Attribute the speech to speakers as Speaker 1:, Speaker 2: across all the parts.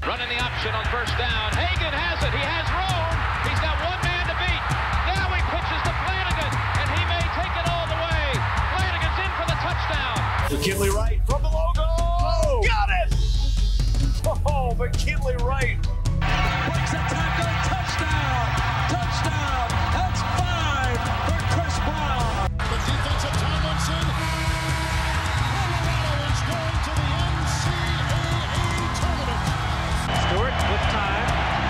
Speaker 1: Running the option on first down. Hagan has it. He has room. He's got one man to beat. Now he pitches to Flanagan, and he may take it all the way. Flanagan's in for the touchdown.
Speaker 2: McKinley Wright from the logo. Oh, got it! Oh, McKinley Wright.
Speaker 3: Breaks a tackle. Touchdown. Touchdown. That's 5 for Chris Brown.
Speaker 4: The defensive Tomlinson. Colorado is going to the NCAA tournament.
Speaker 3: Stewart with time.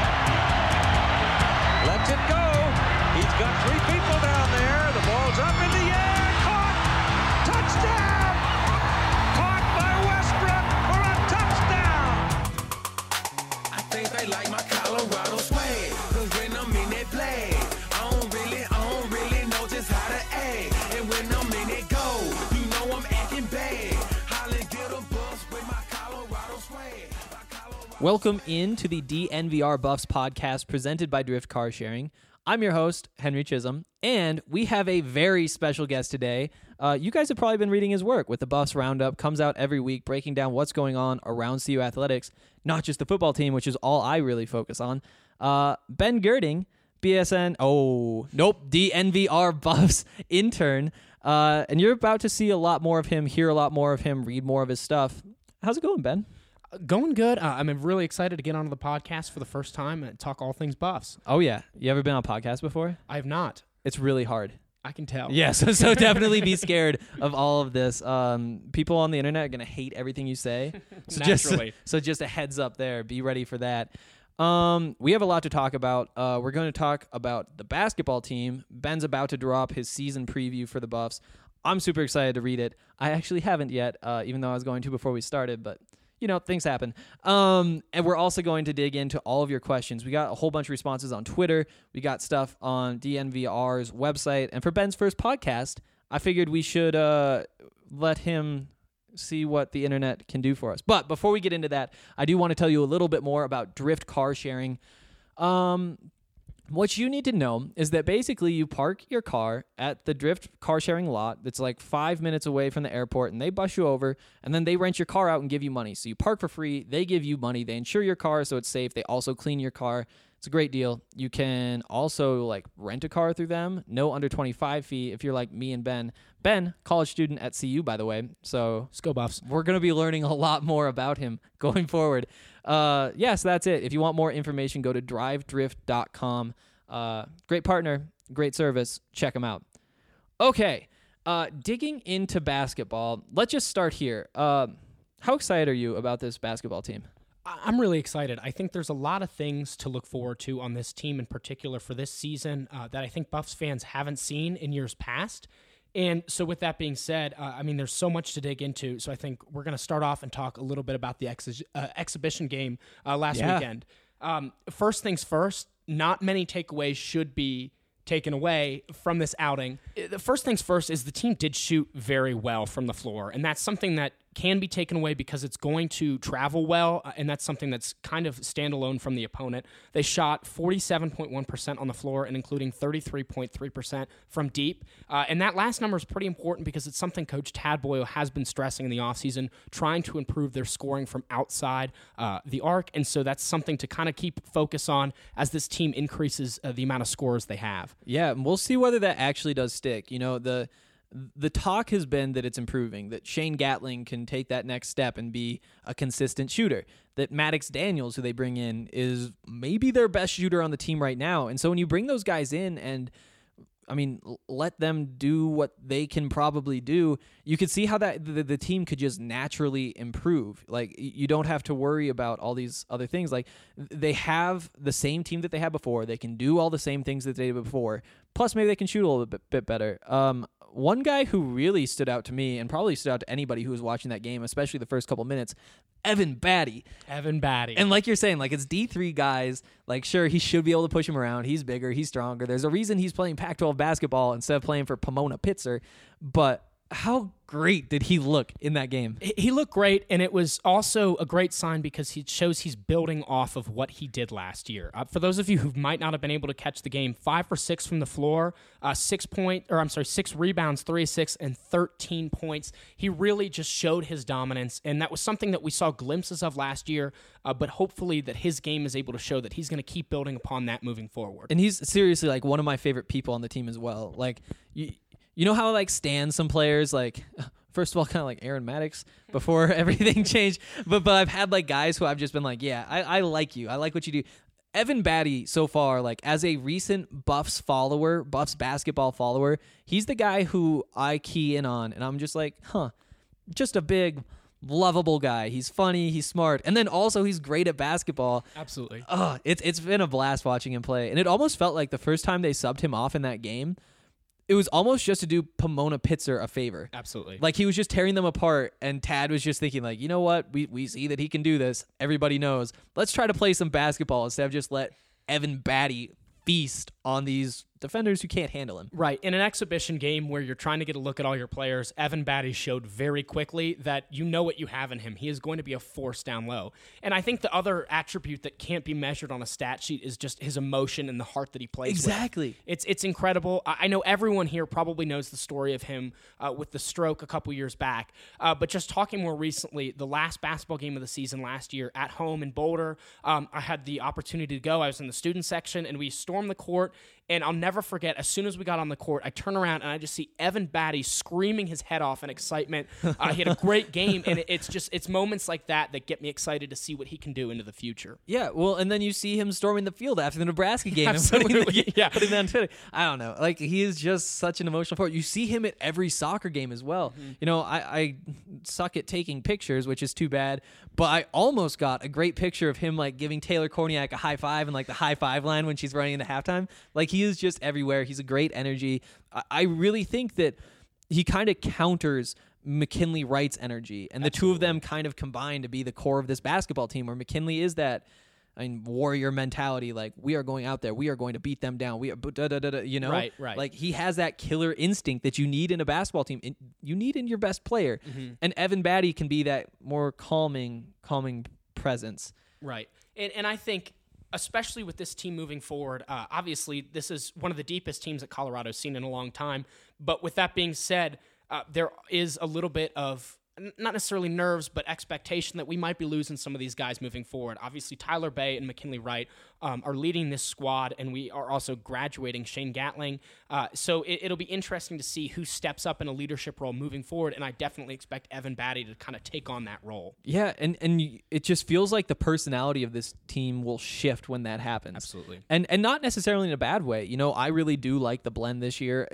Speaker 3: Lets it go. He's got 3 people down there. The ball's up in the air. Caught. Touchdown. Caught by Westbrook for a touchdown.
Speaker 5: I think they like my Colorado swag. Cause when I'm in that play, I don't really know just how to act. And when I'm in it go, you know I'm acting bad. Holly get a bus with my Colorado swag.
Speaker 6: Welcome into the DNVR Buffs podcast presented by Drift Car Sharing. I'm your host, Henry Chisholm, and we have a very special guest today. You guys have probably been reading his work with the Buffs Roundup. Comes out every week breaking down what's going on around CU Athletics, not just the football team, which is all I really focus on. Ben Girding, DNVR Buffs intern, and you're about to see a lot more of him, hear a lot more of him, read more of his stuff. How's it going, Ben?
Speaker 7: Going good. I'm really excited to get onto the podcast for the first time and talk all things Buffs.
Speaker 6: Oh, yeah. You ever been on a podcast before?
Speaker 7: I have not.
Speaker 6: It's really hard.
Speaker 7: I can tell.
Speaker 6: Yeah, so definitely be scared of all of this. People on the internet are going to hate everything you say. So
Speaker 7: Naturally.
Speaker 6: Just a heads up there. Be ready for that. We have a lot to talk about. We're going to talk about the basketball team. Ben's about to drop his season preview for the Buffs. I'm super excited to read it. I actually haven't yet, even though I was going to before we started, but you know, things happen. And we're also going to dig into all of your questions. We got a whole bunch of responses on Twitter. We got stuff on DNVR's website. And for Ben's first podcast, I figured we should let him see what the internet can do for us. But before we get into that, I do want to tell you a little bit more about Drift Car Sharing. What you need to know is that basically you park your car at the Drift car sharing lot that's like 5 minutes away from the airport, and they bus you over, and then they rent your car out and give you money. So you park for free, they give you money, they insure your car so it's safe, they also clean your car. It's a great deal. You can also like rent a car through them, no under 25 fee if you're like me and Ben. Ben, college student at CU, by the way. So
Speaker 7: Let's go Buffs.
Speaker 6: we're going to be learning a lot more about him going forward. So that's it. If you want more information, go to drivedrift.com. Great partner, great service. Check them out. Okay, digging into basketball, let's just start here. How excited are you about this basketball team?
Speaker 7: I'm really excited. I think there's a lot of things to look forward to on this team in particular for this season that I think Buffs fans haven't seen in years past. And so with that being said, there's so much to dig into. So I think we're going to start off and talk a little bit about the exhibition game last weekend. First things first, not many takeaways should be taken away from this outing. The first things first is the team did shoot very well from the floor, and that's something that can be taken away because it's going to travel well, and that's something that's kind of standalone from the opponent. They shot 47.1% on the floor and including 33.3% from deep. And that last number is pretty important because it's something Coach Tad Boyle has been stressing in the offseason, trying to improve their scoring from outside the arc. And so that's something to kind of keep focus on as this team increases the amount of scores they have.
Speaker 6: Yeah, and we'll see whether that actually does stick. You know, the talk has been that it's improving, that Shane Gatling can take that next step and be a consistent shooter, that Maddox Daniels, who they bring in, is maybe their best shooter on the team right now. And so when you bring those guys in and, let them do what they can probably do, you could see how that the team could just naturally improve. Like, you don't have to worry about all these other things. Like, they have the same team that they had before. They can do all the same things that they did before. Plus, maybe they can shoot a little bit better. One guy who really stood out to me and probably stood out to anybody who was watching that game, especially the first couple minutes, Evan Batty. And like you're saying, like, it's D3 guys. Like, sure, he should be able to push him around. He's bigger. He's stronger. There's a reason he's playing Pac-12 basketball instead of playing for Pomona Pitzer. But how great did he look in that game?
Speaker 7: He looked great, and it was also a great sign because it shows he's building off of what he did last year. For those of you who might not have been able to catch the game, 5 for 6 from the floor, 6 rebounds, 3 assists, and 13 points. He really just showed his dominance, and that was something that we saw glimpses of last year, but hopefully that his game is able to show that he's going to keep building upon that moving forward.
Speaker 6: And he's seriously like one of my favorite people on the team as well. Like, you know how I like stand some players, like, first of all, kind of like Aaron Maddox before everything changed. But I've had like guys who I've just been like, yeah, I like you. I like what you do. Evan Batty so far, like as a recent Buffs basketball follower, he's the guy who I key in on. And I'm just like, just a big, lovable guy. He's funny. He's smart. And then also he's great at basketball.
Speaker 7: Absolutely.
Speaker 6: It's been a blast watching him play. And it almost felt like the first time they subbed him off in that game, it was almost just to do Pomona Pitzer a favor.
Speaker 7: Absolutely.
Speaker 6: Like he was just tearing them apart, and Tad was just thinking like, you know what? We see that he can do this. Everybody knows. Let's try to play some basketball instead of just let Evan Batty feast on these defenders who can't handle him.
Speaker 7: Right. In an exhibition game where you're trying to get a look at all your players, Evan Batty showed very quickly that you know what you have in him. He is going to be a force down low. And I think the other attribute that can't be measured on a stat sheet is just his emotion and the heart that he plays
Speaker 6: Exactly.
Speaker 7: with. It's incredible. I know everyone here probably knows the story of him with the stroke a couple years back. But just talking more recently, the last basketball game of the season last year at home in Boulder, I had the opportunity to go. I was in the student section, and we stormed the court. And I'll never forget, as soon as we got on the court, I turn around and I just see Evan Batty screaming his head off in excitement. He had a great game, and it's moments like that that get me excited to see what he can do into the future.
Speaker 6: Yeah, well, and then you see him storming the field after the Nebraska game
Speaker 7: Absolutely.
Speaker 6: and putting that on Twitter. I don't know. Like, he is just such an emotional force. You see him at every soccer game as well. Mm-hmm. You know, I suck at taking pictures, which is too bad, but I almost got a great picture of him, like, giving Taylor Korniak a high five and, like, the high five line when she's running into halftime. Like, he is just everywhere. He's a great energy. I really think that he kind of counters McKinley Wright's energy, and the two of them kind of combine to be the core of this basketball team, where McKinley is that warrior mentality, like, we are going out there, we are going to beat them down, we are you know,
Speaker 7: right.
Speaker 6: Like, he has that killer instinct that you need in a basketball team, you need in your best player. Mm-hmm. And Evan Batty can be that more calming presence.
Speaker 7: Right. And I think, especially with this team moving forward, obviously this is one of the deepest teams that Colorado's seen in a long time. But with that being said, there is a little bit of, not necessarily nerves, but expectation that we might be losing some of these guys moving forward. Obviously, Tyler Bay and McKinley Wright are leading this squad, and we are also graduating Shane Gatling. So it'll be interesting to see who steps up in a leadership role moving forward, and I definitely expect Evan Batty to kind of take on that role.
Speaker 6: Yeah, and it just feels like the personality of this team will shift when that happens.
Speaker 7: Absolutely.
Speaker 6: And not necessarily in a bad way. You know, I really do like the blend this year.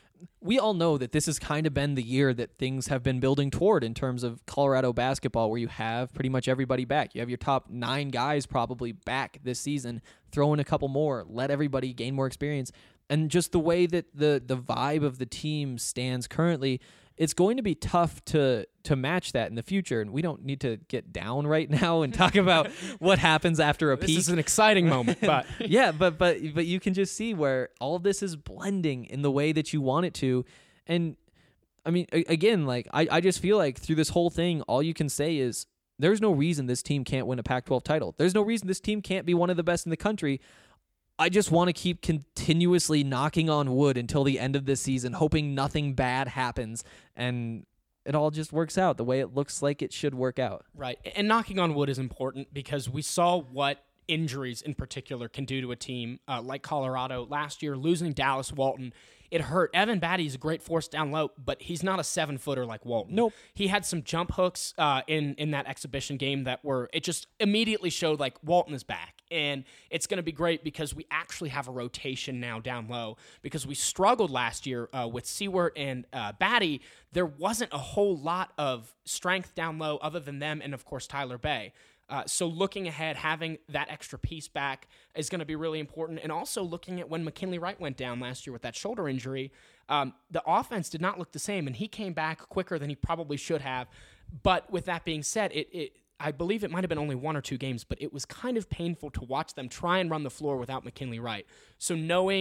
Speaker 6: We all know that this has kind of been the year that things have been building toward in terms of Colorado basketball, where you have pretty much everybody back. You have your top 9 guys probably back this season. Throw in a couple more, let everybody gain more experience. And just the way that the vibe of the team stands currently, it's going to be tough to match that in the future. And we don't need to get down right now and talk about what happens after a peak.
Speaker 7: This is an exciting moment, but
Speaker 6: yeah, but you can just see where all of this is blending in the way that you want it to. And I mean, again, like, I just feel like through this whole thing, all you can say is there's no reason this team can't win a Pac-12 title. There's no reason this team can't be one of the best in the country. I just want to keep continuously knocking on wood until the end of this season, hoping nothing bad happens and it all just works out the way it looks like it should work out.
Speaker 7: Right. And knocking on wood is important because we saw what injuries in particular can do to a team like Colorado last year. Losing Dallas Walton, it hurt. Evan Batty's a great force down low, but he's not a 7-footer like Walton.
Speaker 6: Nope. He
Speaker 7: had some jump hooks in that exhibition game it just immediately showed like Walton is back. And it's going to be great because we actually have a rotation now down low, because we struggled last year with Seward and Batty. There wasn't a whole lot of strength down low other than them and, of course, Tyler Bay. So looking ahead, having that extra piece back is going to be really important. And also looking at when McKinley Wright went down last year with that shoulder injury, the offense did not look the same, and he came back quicker than he probably should have. But with that being said, I believe it might have been only 1 or 2 games, but it was kind of painful to watch them try and run the floor without McKinley Wright. So knowing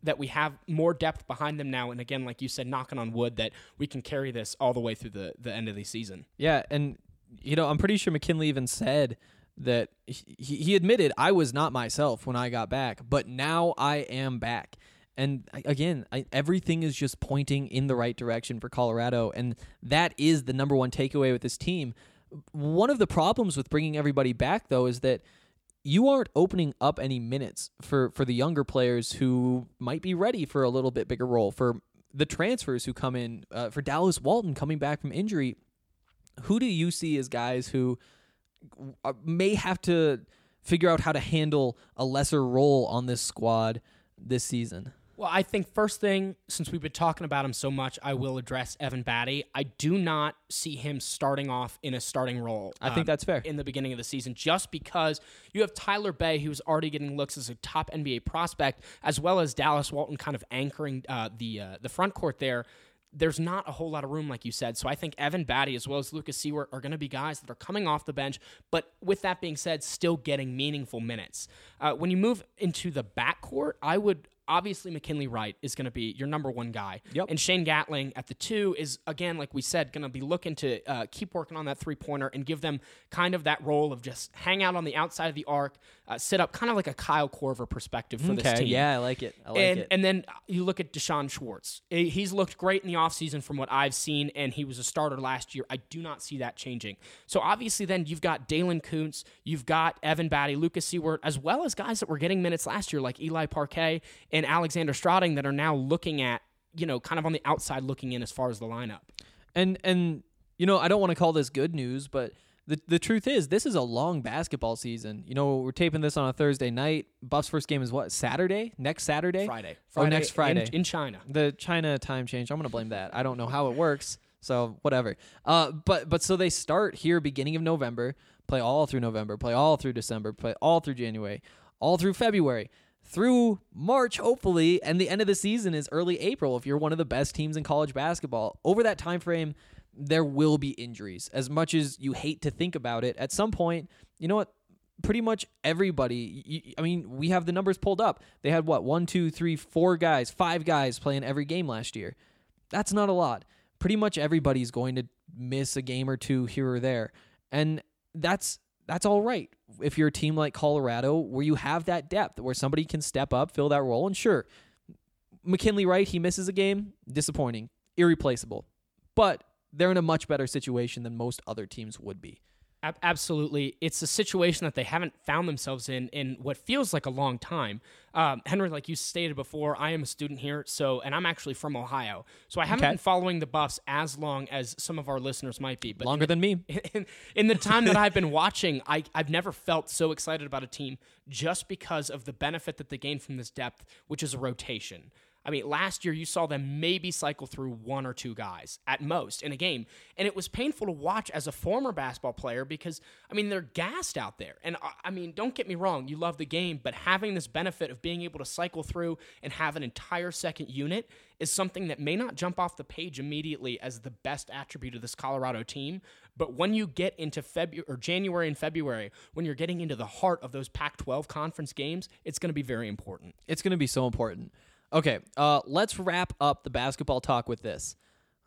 Speaker 7: that we have more depth behind them now. And again, like you said, knocking on wood, that we can carry this all the way through the end of the season.
Speaker 6: Yeah, and I'm pretty sure McKinley even said that he admitted, I was not myself when I got back, but now I am back. And again, everything is just pointing in the right direction for Colorado, and that is the number one takeaway with this team. One of the problems with bringing everybody back, though, is that you aren't opening up any minutes for the younger players who might be ready for a little bit bigger role, for the transfers who come in, for Dallas Walton coming back from injury. Who do you see as guys who may have to figure out how to handle a lesser role on this squad this season?
Speaker 7: Well, I think first thing, since we've been talking about him so much, I will address Evan Batty. I do not see him starting off in a starting role.
Speaker 6: I think that's fair.
Speaker 7: In the beginning of the season, just because you have Tyler Bay, who's already getting looks as a top NBA prospect, as well as Dallas Walton kind of anchoring the front court there. There's not a whole lot of room, like you said. So I think Evan Batty as well as Lucas Seward are going to be guys that are coming off the bench, but with that being said, still getting meaningful minutes. When you move into the backcourt, I would... Obviously, McKinley Wright is going to be your number one guy.
Speaker 6: Yep.
Speaker 7: And Shane Gatling at the 2 is, again, like we said, going to be looking to keep working on that three-pointer and give them kind of that role of just hang out on the outside of the arc, sit up, kind of like a Kyle Korver perspective for this team.
Speaker 6: Yeah, I like it.
Speaker 7: And then you look at Deshaun Schwartz. He's looked great in the offseason from what I've seen, and he was a starter last year. I do not see that changing. So obviously then you've got Dalen Kuntz, you've got Evan Batty, Lucas Seward, as well as guys that were getting minutes last year like Eli Parquet and Alexander Strauding that are now looking at, kind of on the outside looking in as far as the lineup.
Speaker 6: And I don't want to call this good news, but the truth is this is a long basketball season. We're taping this on a Thursday night. Buffs' first game is what, Saturday? Next Saturday?
Speaker 7: Friday.
Speaker 6: Oh, next Friday.
Speaker 7: In China.
Speaker 6: The China time change. I'm going to blame that. I don't know how it works, so whatever. But so they start here beginning of November, play all through November, play all through December, play all through January, all through February, through March, hopefully, and the end of the season is early April if you're one of the best teams in college basketball. Over that time frame, there will be injuries. As much as you hate to think about it, at some point, you know what? Pretty much everybody, we have the numbers pulled up. They had 1, 2, 3, 4 guys, 5 guys playing every game last year. That's not a lot. Pretty much everybody's going to miss a game or two here or there. And that's all right. If you're a team like Colorado, where you have that depth, where somebody can step up, fill that role, and sure, McKinley Wright, he misses a game, disappointing, irreplaceable. But they're in a much better situation than most other teams would be.
Speaker 7: Absolutely. It's a situation that they haven't found themselves in what feels like a long time. Henry, like you stated before, I am a student here, and I'm actually from Ohio. So I haven't been following the Buffs as long as some of our listeners might be. But
Speaker 6: longer than me.
Speaker 7: In the time that I've been watching, I've never felt so excited about a team just because of the benefit that they gain from this depth, which is a rotation. Last year you saw them maybe cycle through 1 or 2 guys at most in a game. And it was painful to watch as a former basketball player because, they're gassed out there. And, don't get me wrong, you love the game, but having this benefit of being able to cycle through and have an entire second unit is something that may not jump off the page immediately as the best attribute of this Colorado team. But when you get into January and February, when you're getting into the heart of those Pac-12 conference games, it's going to be very important.
Speaker 6: It's going to be so important. Okay, let's wrap up the basketball talk with this.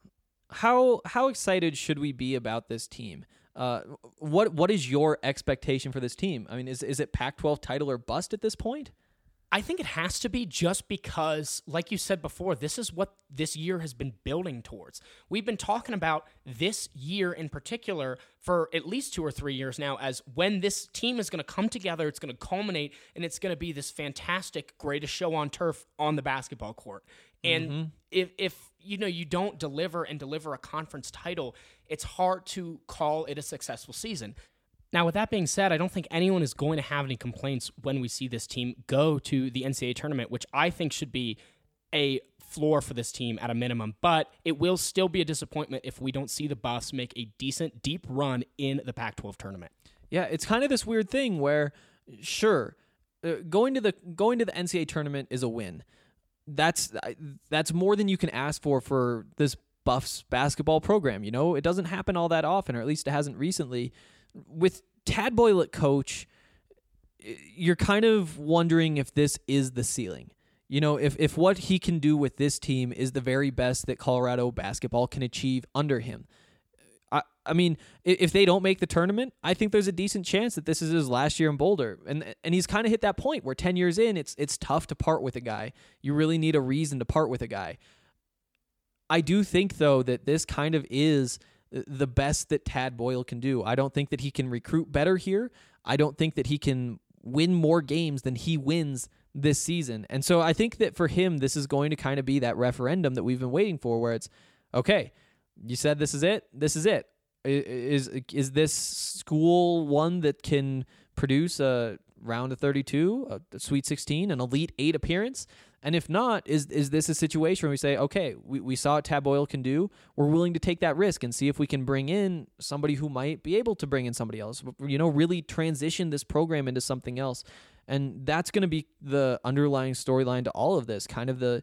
Speaker 6: How excited should we be about this team? What is your expectation for this team? Is it Pac-12 title or bust at this point?
Speaker 7: I think it has to be, just because, like you said before, this is what this year has been building towards. We've been talking about this year in particular for at least 2 or 3 years now as when this team is going to come together, it's going to culminate, and it's going to be this fantastic, greatest show on turf on the basketball court. And if you don't deliver a conference title, it's hard to call it a successful season. Now, with that being said, I don't think anyone is going to have any complaints when we see this team go to the NCAA tournament, which I think should be a floor for this team at a minimum. But it will still be a disappointment if we don't see the Buffs make a decent, deep run in the Pac-12 tournament.
Speaker 6: Yeah, it's kind of this weird thing where, sure, going to the NCAA tournament is a win. That's more than you can ask for this Buffs basketball program. It doesn't happen all that often, or at least it hasn't recently. With Tad Boyle at coach, you're kind of wondering if this is the ceiling. You know, if what he can do with this team is the very best that Colorado basketball can achieve under him, I mean, if they don't make the tournament, I think there's a decent chance that this is his last year in Boulder. And he's kind of hit that point where 10 years in, it's tough to part with a guy. You really need a reason to part with a guy. I do think, though, that this kind of is the best that Tad Boyle can do. I don't think that he can recruit better here. I don't think that he can win more games than he wins this season. And so I think that for him, this is going to kind of be that referendum that we've been waiting for, where it's, okay, you said this is it. This is it. Is this school one that can produce a round of 32, a Sweet 16, an Elite 8 appearance? And if not, is this a situation where we say, okay, we saw what Tad Boyle can do. We're willing to take that risk and see if we can bring in somebody who might be able to bring in somebody else, you know, really transition this program into something else. And that's going to be the underlying storyline to all of this. Kind of the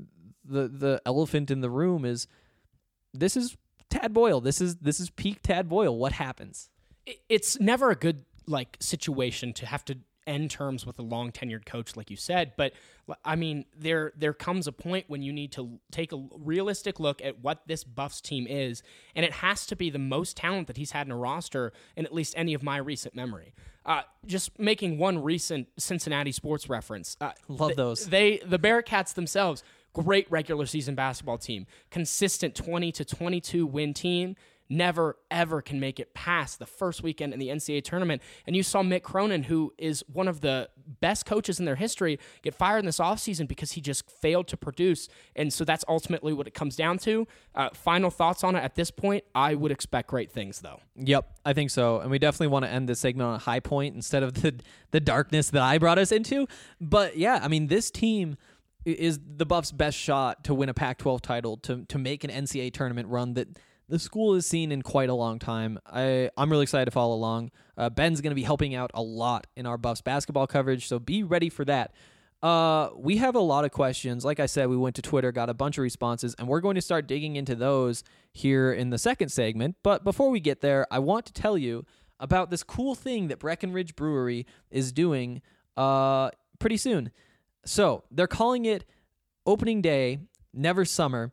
Speaker 6: elephant in the room is, this is Tad Boyle. This is peak Tad Boyle. What happens?
Speaker 7: It's never a good situation to have to end terms with a long tenured coach, like you said. But I mean, there comes a point when you need to take a realistic look at what this Buffs team is, and it has to be the most talent that he's had in a roster in at least any of my recent memory. Just making one recent Cincinnati sports reference.
Speaker 6: Love those.
Speaker 7: The Bearcats themselves, great regular season basketball team, consistent 20 to 22 win team, never ever can make it past the first weekend in the NCAA tournament. And you saw Mick Cronin, who is one of the best coaches in their history, get fired in this offseason because he just failed to produce. And so that's ultimately what it comes down to. Final thoughts on it at this point, I would expect great things, though.
Speaker 6: Yep, I think so. And we definitely want to end this segment on a high point instead of the darkness that I brought us into. But yeah, I mean, this team is the Buffs' best shot to win a Pac-12 title, to make an NCAA tournament run that the school has seen in quite a long time. I'm really excited to follow along. Ben's going to be helping out a lot in our Buffs basketball coverage, so be ready for that. We have a lot of questions. Like I said, we went to Twitter, got a bunch of responses, and we're going to start digging into those here in the second segment. But before we get there, I want to tell you about this cool thing that Breckenridge Brewery is doing pretty soon. So they're calling it Opening Day, Never Summer.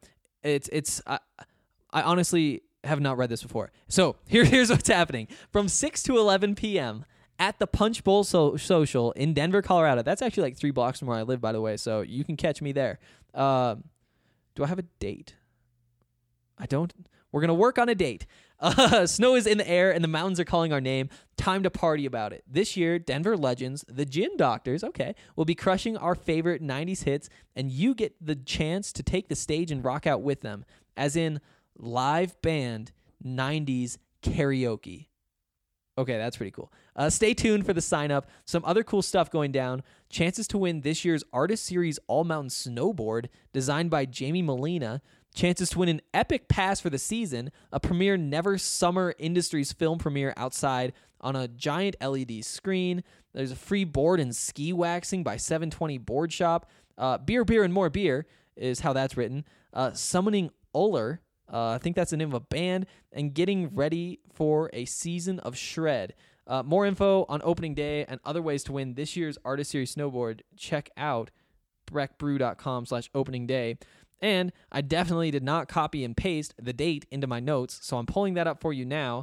Speaker 6: I honestly have not read this before. So here's what's happening. From 6 to 11 p.m. at the Punch Bowl Social in Denver, Colorado. That's actually like 3 blocks from where I live, by the way, so you can catch me there. Do I have a date? I don't. We're going to work on a date. Snow is in the air, and the mountains are calling our name. Time to party about it. This year, Denver legends, the Gin Doctors, will be crushing our favorite 90s hits, and you get the chance to take the stage and rock out with them, as in live band 90s karaoke. Okay, that's pretty cool. Stay tuned for the sign up. Some other cool stuff going down. Chances to win this year's Artist Series All-Mountain Snowboard designed by Jamie Molina. Chances to win an epic pass for the season, a premiere Never Summer Industries film premiere outside on a giant LED screen. There's a free board and ski waxing by 720 Board Shop. Beer, and more beer is how that's written. Summoning Uller, I think that's the name of a band, and getting ready for a season of shred. More info on opening day and other ways to win this year's Artist Series Snowboard. Check out breckbrew.com/opening day. And I definitely did not copy and paste the date into my notes, so I'm pulling that up for you now.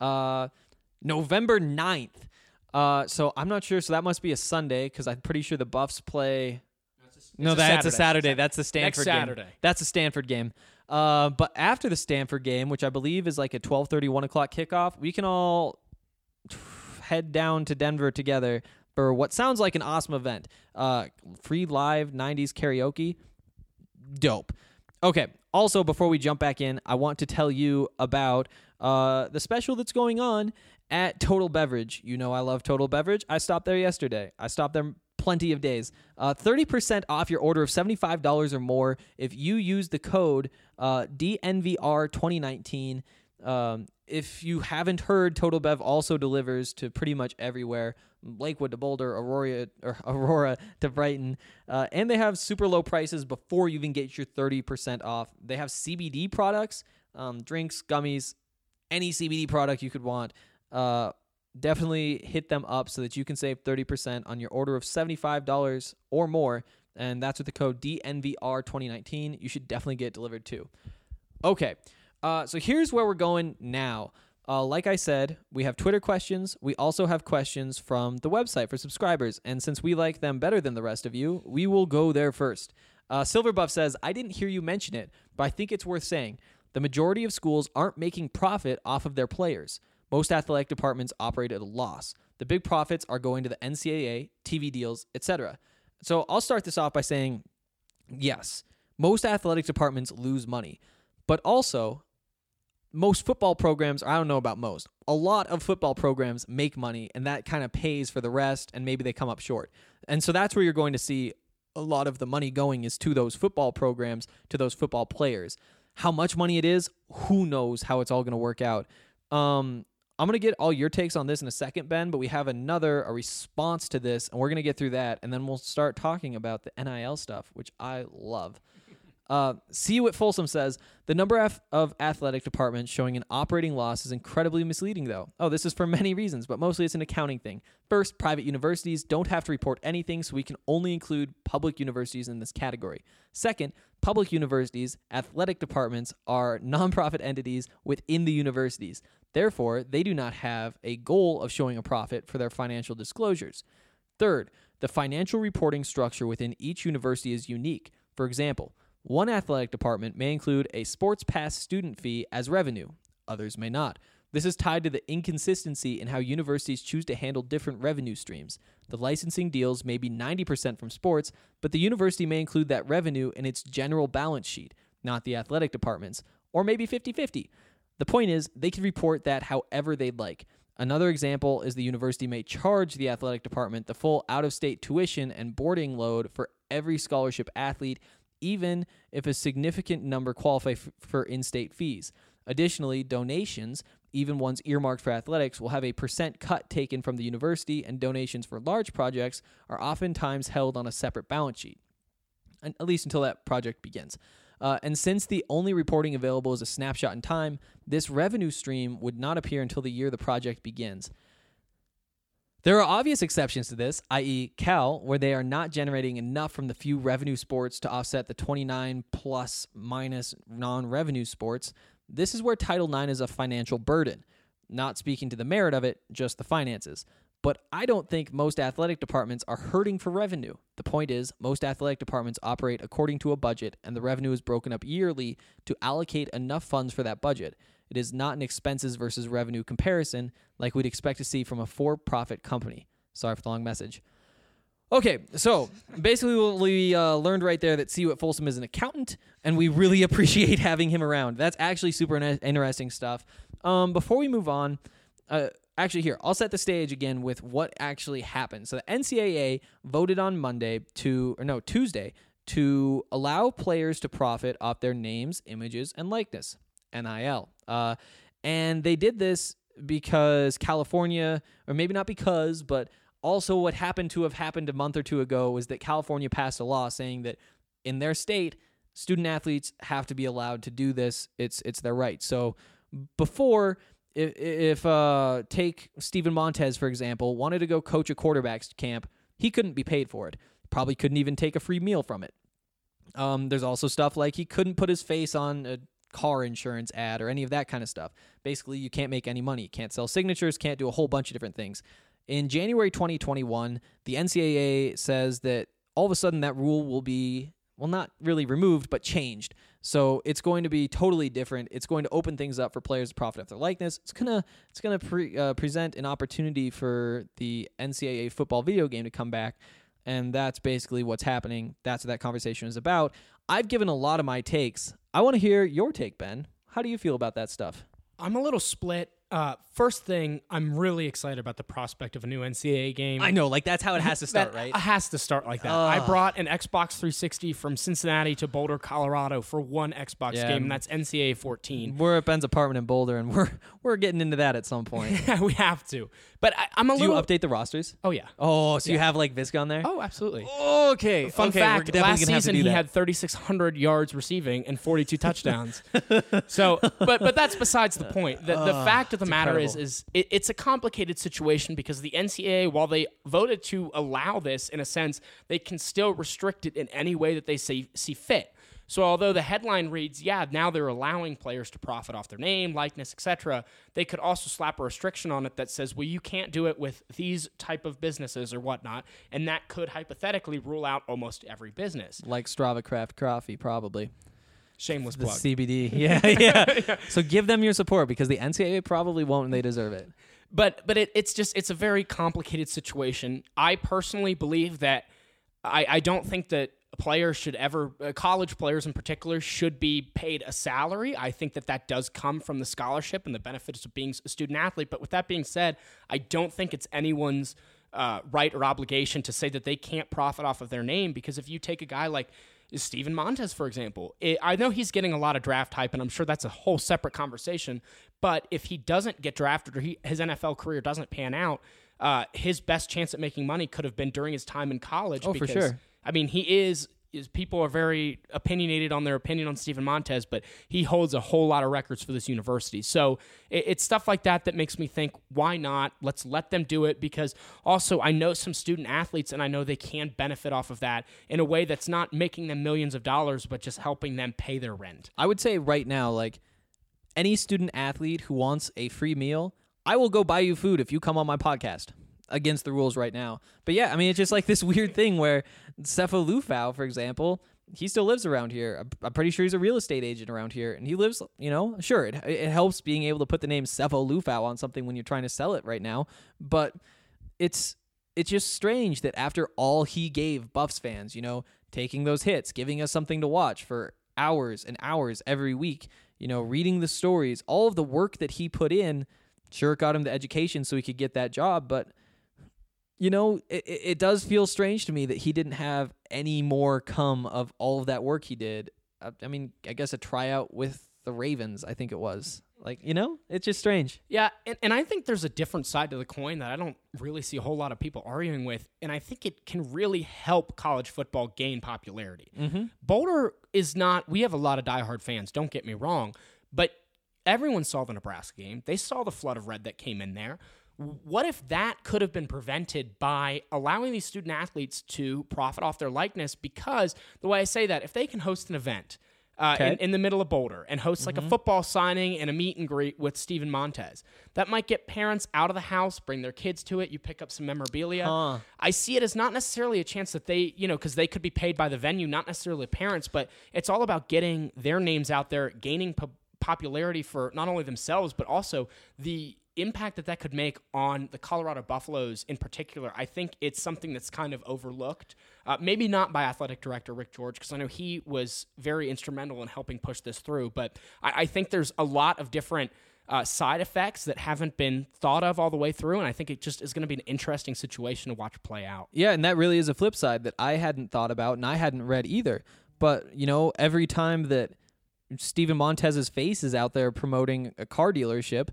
Speaker 6: November 9th. So I'm not sure. So that must be a Sunday, because I'm pretty sure the Buffs play. That's a Saturday. That's the Stanford game.
Speaker 7: Saturday.
Speaker 6: That's a Stanford game. But after the Stanford game, which I believe is like a 12:30, 1 o'clock kickoff, we can all head down to Denver together for what sounds like an awesome event. Free live 90s karaoke. Dope. Okay. Also, before we jump back in, I want to tell you about the special that's going on at Total Beverage. You know I love Total Beverage. I stopped there yesterday. I stopped there plenty of days. 30% off your order of $75 or more if you use the code DNVR2019. If you haven't heard, Total Bev also delivers to pretty much everywhere. Lakewood to Boulder, Aurora to Brighton. And they have super low prices before you even get your 30% off. They have CBD products, drinks, gummies, any CBD product you could want. Definitely hit them up so that you can save 30% on your order of $75 or more and that's with the code DNVR2019. You should definitely get it delivered too. Okay, so here's where we're going now. Like I said, we have Twitter questions. We also have questions from the website for subscribers, and since we like them better than the rest of you, we will go there first. Silverbuff says, I didn't hear you mention it, but I think it's worth saying. The majority of schools aren't making profit off of their players. Most athletic departments operate at a loss. The big profits are going to the NCAA, TV deals, etc. So I'll start this off by saying, yes, most athletic departments lose money, but also most football programs, I don't know about most, a lot of football programs make money, and that kind of pays for the rest, and maybe they come up short. And so that's where you're going to see a lot of the money going is to those football programs, to those football players. How much money it is, who knows how it's all going to work out. I'm going to get all your takes on this in a second, Ben, but we have a response to this, and we're going to get through that, and then we'll start talking about the NIL stuff, which I love. See You at Folsom says, the number of athletic departments showing an operating loss is incredibly misleading, though. Oh, this is for many reasons, but mostly it's an accounting thing. First, private universities don't have to report anything, so we can only include public universities in this category. Second, public universities' athletic departments are nonprofit entities within the universities. Therefore, they do not have a goal of showing a profit for their financial disclosures. Third, the financial reporting structure within each university is unique. For example, one athletic department may include a sports pass student fee as revenue. Others may not. This is tied to the inconsistency in how universities choose to handle different revenue streams. The licensing deals may be 90% from sports, but the university may include that revenue in its general balance sheet, not the athletic department's, or maybe 50-50. The point is, they can report that however they'd like. Another example is the university may charge the athletic department the full out-of-state tuition and boarding load for every scholarship athlete, even if a significant number qualify for in-state fees. Additionally, donations, even ones earmarked for athletics, will have a % cut taken from the university, and donations for large projects are oftentimes held on a separate balance sheet, at least until that project begins. And since the only reporting available is a snapshot in time, this revenue stream would not appear until the year the project begins. There are obvious exceptions to this, i.e. Cal, where they are not generating enough from the few revenue sports to offset the 29 plus minus non-revenue sports. This is where Title IX is a financial burden. Not speaking to the merit of it, just the finances. But I don't think most athletic departments are hurting for revenue. The point is, most athletic departments operate according to a budget, and the revenue is broken up yearly to allocate enough funds for that budget. It is not an expenses versus revenue comparison like we'd expect to see from a for-profit company. Sorry for the long message. Okay, so basically we learned right there that See You at Folsom is an accountant, and we really appreciate having him around. That's actually super interesting stuff. Before we move on, actually here, I'll set the stage again with what actually happened. So the NCAA voted on Tuesday, to allow players to profit off their names, images, and likeness, NIL. And they did this because California, or maybe not because, but also what happened a month or two ago was that California passed a law saying that in their state, student athletes have to be allowed to do this. It's their right. So before, if take Steven Montez, for example, wanted to go coach a quarterback's camp, he couldn't be paid for it. Probably couldn't even take a free meal from it. There's also stuff like he couldn't put his face on a car insurance ad or any of that kind of stuff. Basically, you can't make any money. You can't sell signatures, can't do a whole bunch of different things. In January 2021, the NCAA says that all of a sudden that rule will be, well, not really removed, but changed. So it's going to be totally different. It's going to open things up for players to profit off their likeness. It's gonna present an opportunity for the NCAA football video game to come back, and that's basically what's happening. That's what that conversation is about. I've given a lot of my takes. I want to hear your take, Ben. How do you feel about that stuff?
Speaker 7: I'm a little split. First thing, I'm really excited about the prospect of a new NCAA game.
Speaker 6: I know, like that's how it has to start, right?
Speaker 7: It has to start like that. I brought an Xbox 360 from Cincinnati to Boulder, Colorado for one Xbox game, and that's NCAA 14.
Speaker 6: We're at Ben's apartment in Boulder, and we're getting into that at some point.
Speaker 7: Yeah, we have to. But I'm a little...
Speaker 6: Do you update the rosters?
Speaker 7: Oh, yeah.
Speaker 6: Oh, so you have like Visk on there?
Speaker 7: Oh, absolutely.
Speaker 6: Okay.
Speaker 7: Fun fact, last season he
Speaker 6: that.
Speaker 7: had 3,600 yards receiving and 42 touchdowns. So, but that's besides the point. The fact of of the matter is it's a complicated situation because the NCAA, while they voted to allow this in a sense, they can still restrict it in any way that they see fit. So although the headline reads, yeah, now they're allowing players to profit off their name, likeness, etc., they could also slap a restriction on it that says, well, you can't do it with these type of businesses or whatnot, and that could hypothetically rule out almost every business.
Speaker 6: Like Strava Craft Coffee, probably.
Speaker 7: Shameless
Speaker 6: The
Speaker 7: plug.
Speaker 6: CBD. Yeah. So give them your support because the NCAA probably won't and they deserve it.
Speaker 7: But it's a very complicated situation. I personally believe that I don't think that players should ever, college players in particular, should be paid a salary. I think that does come from the scholarship and the benefits of being a student athlete. But with that being said, I don't think it's anyone's right or obligation to say that they can't profit off of their name, because if you take a guy like Steven Montez, for example, I know he's getting a lot of draft hype, and I'm sure that's a whole separate conversation. But if he doesn't get drafted or his NFL career doesn't pan out, his best chance at making money could have been during his time in college.
Speaker 6: Oh,
Speaker 7: because,
Speaker 6: for sure.
Speaker 7: I mean, he is people are very opinionated on their opinion on Steven Montez, but he holds a whole lot of records for this university. So it's stuff like that makes me think, why not? Let's let them do it, because also I know some student athletes and I know they can benefit off of that in a way that's not making them millions of dollars, but just helping them pay their rent.
Speaker 6: I would say right now, like any student athlete who wants a free meal, I will go buy you food if you come on my podcast. Against the rules right now. But yeah, I mean, it's just like this weird thing where Sefo Liufau, for example, he still lives around here. I'm pretty sure he's a real estate agent around here. And he lives, sure, it helps being able to put the name Sefo Liufau on something when you're trying to sell it right now. But it's just strange that after all he gave Buffs fans, taking those hits, giving us something to watch for hours and hours every week, reading the stories, all of the work that he put in, sure, it got him the education so he could get that job, but it does feel strange to me that he didn't have any more come of all of that work he did. I mean, I guess a tryout with the Ravens, I think it was. Like, it's just strange.
Speaker 7: Yeah, and I think there's a different side to the coin that I don't really see a whole lot of people arguing with, and I think it can really help college football gain popularity. Mm-hmm. Boulder is not – we have a lot of diehard fans, don't get me wrong, but everyone saw the Nebraska game. They saw the flood of red that came in there. What if that could have been prevented by allowing these student athletes to profit off their likeness? Because the way I say that, if they can host an event in the middle of Boulder and host like a football signing and a meet and greet with Steven Montez, that might get parents out of the house, bring their kids to it. You pick up some memorabilia. I see it as not necessarily a chance that they, because they could be paid by the venue, not necessarily parents, but it's all about getting their names out there, gaining popularity for not only themselves, but also the impact that could make on the Colorado Buffaloes in particular. I think it's something that's kind of overlooked. Maybe not by athletic director Rick George, because I know he was very instrumental in helping push this through. But I think there's a lot of different side effects that haven't been thought of all the way through, and I think it just is going to be an interesting situation to watch play out.
Speaker 6: Yeah, and that really is a flip side that I hadn't thought about and I hadn't read either. But, every time that Steven Montez's face is out there promoting a car dealership,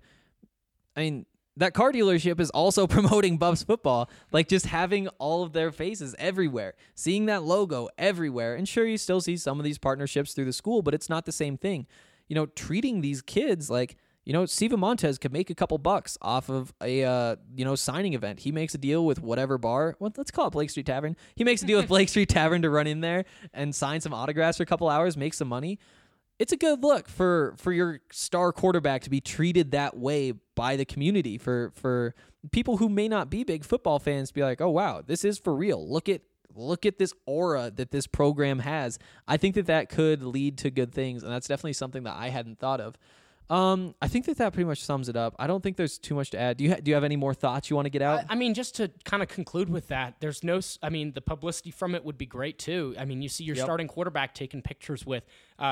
Speaker 6: I mean, that car dealership is also promoting Buffs football, like just having all of their faces everywhere, seeing that logo everywhere. And sure, you still see some of these partnerships through the school, but it's not the same thing. Treating these kids like, Steven Montez could make a couple bucks off of a, signing event. He makes a deal with whatever bar. Well, let's call it Blake Street Tavern. He makes a deal with Blake Street Tavern to run in there and sign some autographs for a couple hours, make some money. It's a good look for your star quarterback to be treated that way by the community, for people who may not be big football fans to be like, oh, wow, this is for real. Look at this aura that this program has. I think that could lead to good things, and that's definitely something that I hadn't thought of. I think that pretty much sums it up. I don't think there's too much to add. Do you have any more thoughts you want to get out?
Speaker 7: I mean, just to kind of conclude with that, the publicity from it would be great too. I mean, you see your starting quarterback taking pictures with,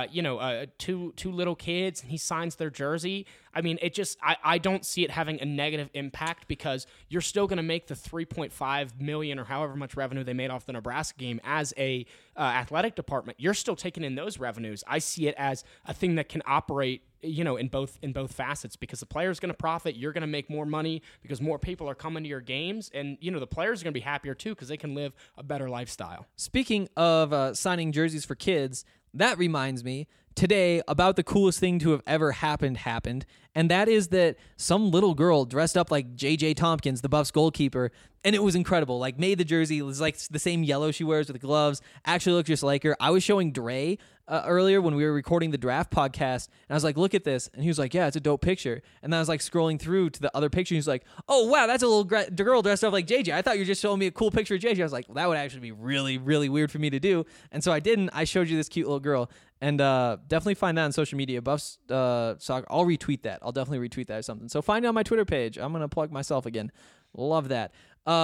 Speaker 7: two little kids, and he signs their jersey. I mean, I don't see it having a negative impact, because you're still going to make the $3.5 million or however much revenue they made off the Nebraska game as a athletic department. You're still taking in those revenues. I see it as a thing that can operate, in both facets, because the player's going to profit, you're going to make more money because more people are coming to your games, and the players are going to be happier too because they can live a better lifestyle.
Speaker 6: Speaking of signing jerseys for kids, that reminds me, today about the coolest thing to have ever happened, and that is that some little girl dressed up like J.J. Tompkins, the Buffs goalkeeper, and it was incredible. Like, made the jersey. It was like the same yellow she wears with the gloves. Actually looked just like her. I was showing Dre earlier when we were recording the draft podcast, and I was like, look at this. And he was like, yeah, it's a dope picture. And then I was like scrolling through to the other picture. He's like, oh, wow, that's a little girl dressed up like JJ. I thought you were just showing me a cool picture of JJ. I was like, well, that would actually be really, really weird for me to do. And so I didn't. I showed you this cute little girl. And definitely find that on social media. Buffs Soccer. I'll retweet that. I'll definitely retweet that or something. So find it on my Twitter page. I'm going to plug myself again. Love that.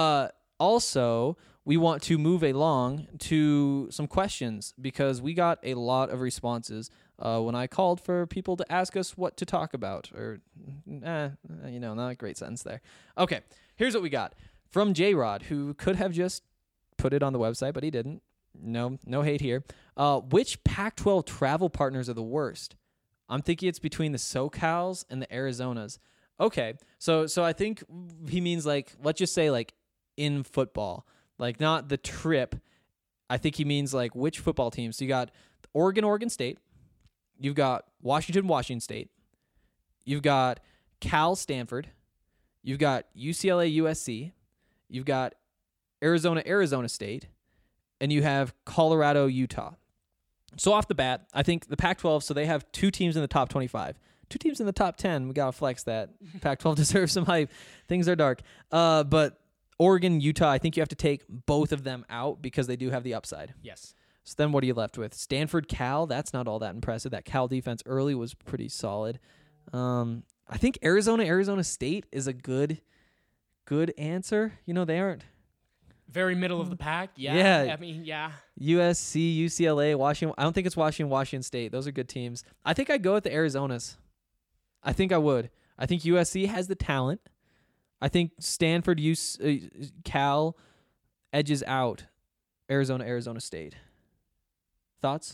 Speaker 6: Also, we want to move along to some questions because we got a lot of responses when I called for people to ask us what to talk about. Or, not a great sentence there. Okay, here's what we got. From J-Rod, who could have just put it on the website, but he didn't. No hate here. Which Pac-12 travel partners are the worst? I'm thinking it's between the SoCals and the Arizonas. Okay, so I think he means like, let's just say like in football, like not the trip. I think he means like which football teams. So you got Oregon State. You've got Washington State. You've got Cal Stanford. You've got UCLA USC. You've got Arizona State. And you have Colorado, Utah. So off the bat, I think the Pac-12, so they have 2 teams in the top 25. 2 teams in the top 10. We got to flex that. Pac-12 deserves some hype. Things are dark. But Oregon, Utah, I think you have to take both of them out because they do have the upside.
Speaker 7: Yes.
Speaker 6: So then what are you left with? Stanford, Cal, that's not all that impressive. That Cal defense early was pretty solid. I think Arizona State is a good answer. They aren't.
Speaker 7: Very middle of the pack. Yeah.
Speaker 6: Yeah.
Speaker 7: I mean, yeah.
Speaker 6: USC, UCLA, Washington. I don't think it's Washington State. Those are good teams. I think I'd go with the Arizonas. I think I would. I think USC has the talent. I think Stanford, Cal edges out Arizona State. Thoughts?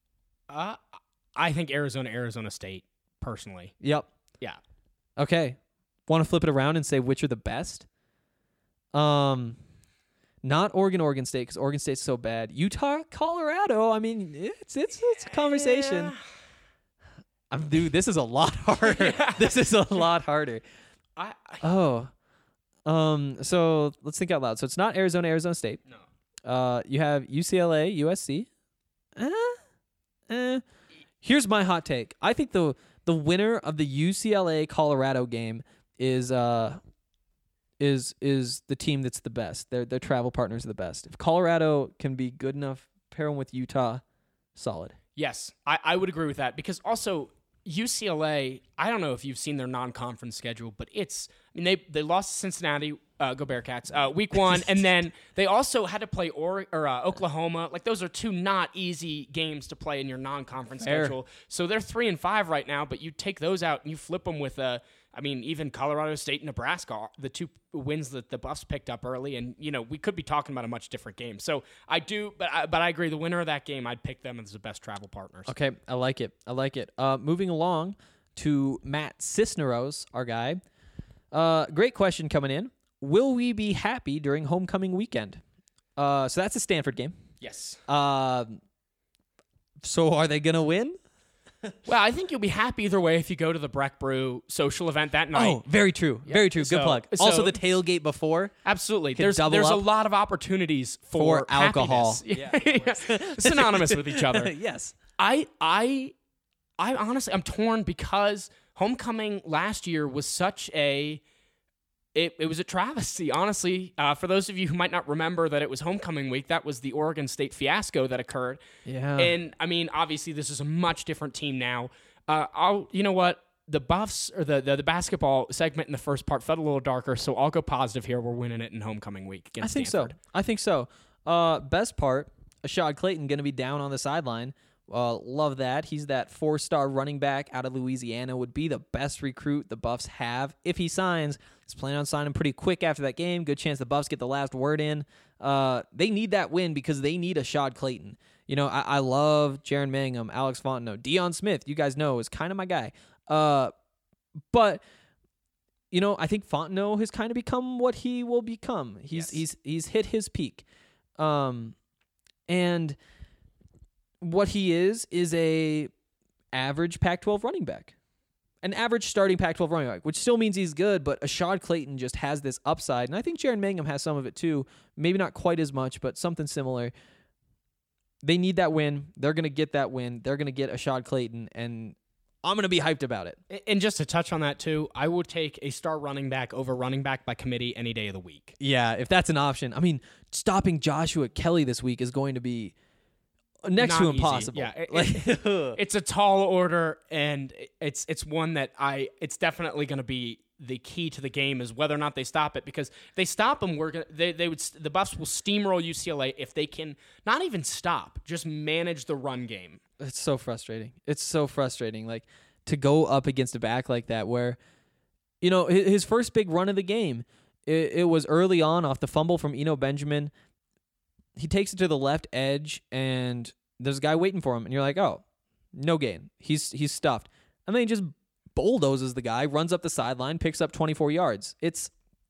Speaker 7: I think Arizona State, personally.
Speaker 6: Yep.
Speaker 7: Yeah.
Speaker 6: Okay. Want to flip it around and say which are the best? Not Oregon State, because Oregon State's so bad. Utah, Colorado. I mean, it's a conversation.
Speaker 7: Yeah.
Speaker 6: Dude, this is a lot harder.
Speaker 7: Yeah.
Speaker 6: This is a lot harder. So let's think out loud. So it's not Arizona State.
Speaker 7: No.
Speaker 6: You have UCLA, USC. Here's my hot take. I think the winner of the UCLA Colorado game is the team that's the best. Their travel partners are the best. If Colorado can be good enough, pair them with Utah, solid.
Speaker 7: Yes, I would agree with that because also UCLA, I don't know if you've seen their non-conference schedule, but they lost to Cincinnati, go Bearcats, week 1, and then they also had to play Oklahoma. Like, those are 2 not easy games to play in your non-conference schedule. So they're 3-5 right now, but you take those out and you flip them with even Colorado State and Nebraska, the 2 wins that the Buffs picked up early, and we could be talking about a much different game. So I do, but I agree. The winner of that game, I'd pick them as the best travel partners.
Speaker 6: Okay, I like it. Moving along to Matt Cisneros, our guy. Great question coming in. Will we be happy during homecoming weekend? So that's a Stanford game.
Speaker 7: Yes.
Speaker 6: So are they gonna win?
Speaker 7: Well, I think you'll be happy either way if you go to the Breck Brew social event that night.
Speaker 6: Oh, very true.
Speaker 7: Yeah.
Speaker 6: Very true. Good plug.
Speaker 7: So,
Speaker 6: Also, the tailgate before.
Speaker 7: Absolutely.
Speaker 6: Could double
Speaker 7: there's a
Speaker 6: up.
Speaker 7: lot of opportunities for
Speaker 6: alcohol.
Speaker 7: happiness. Yeah. Synonymous with each other.
Speaker 6: Yes.
Speaker 7: I honestly, I'm torn because homecoming last year was such a... It was a travesty, honestly. For those of you who might not remember that it was homecoming week, that was the Oregon State fiasco that occurred.
Speaker 6: Yeah.
Speaker 7: And, obviously, this is a much different team now. You know what? The Buffs, or the basketball segment in the first part felt a little darker, so I'll go positive here. We're winning it in homecoming week against Stanford.
Speaker 6: I think so. Best part, Ashad Clayton going to be down on the sideline. Love that. He's that 4-star running back out of Louisiana, would be the best recruit the Buffs have. If he signs, he's planning on signing pretty quick after that game. Good chance the Buffs get the last word in. They need that win because they need Ashad Clayton. I love Jaron Mangham, Alex Fontenot, Deion Smith, you guys know, is kind of my guy. But I think Fontenot has kind of become what he will become. He's hit his peak. And what he is a average Pac-12 running back. An average starting Pac-12 running back, which still means he's good, but Ashad Clayton just has this upside, and I think Jaron Mangum has some of it too. Maybe not quite as much, but something similar. They need that win. They're going to get that win. They're going to get Ashad Clayton, and I'm going to be hyped about it.
Speaker 7: And just to touch on that too, I would take a star running back over running back by committee any day of the week.
Speaker 6: Yeah, if that's an option. I mean, stopping Joshua Kelly this week is going to be next
Speaker 7: Not
Speaker 6: to
Speaker 7: easy.
Speaker 6: impossible.
Speaker 7: Yeah,
Speaker 6: Like,
Speaker 7: it's a tall order, and it's one that it's definitely going to be the key to the game is whether or not they stop it, because if they stop them, the Buffs will steamroll UCLA if they can not even stop, just manage the run game.
Speaker 6: it's so frustrating. It's so frustrating. Like, to go up against a back like that where, his first big run of the game, it was early on off the fumble from Eno Benjamin. He takes it to the left edge, and there's a guy waiting for him, and you're like, oh, no gain. He's stuffed. And then he just bulldozes the guy, runs up the sideline, picks up 24 yards. It's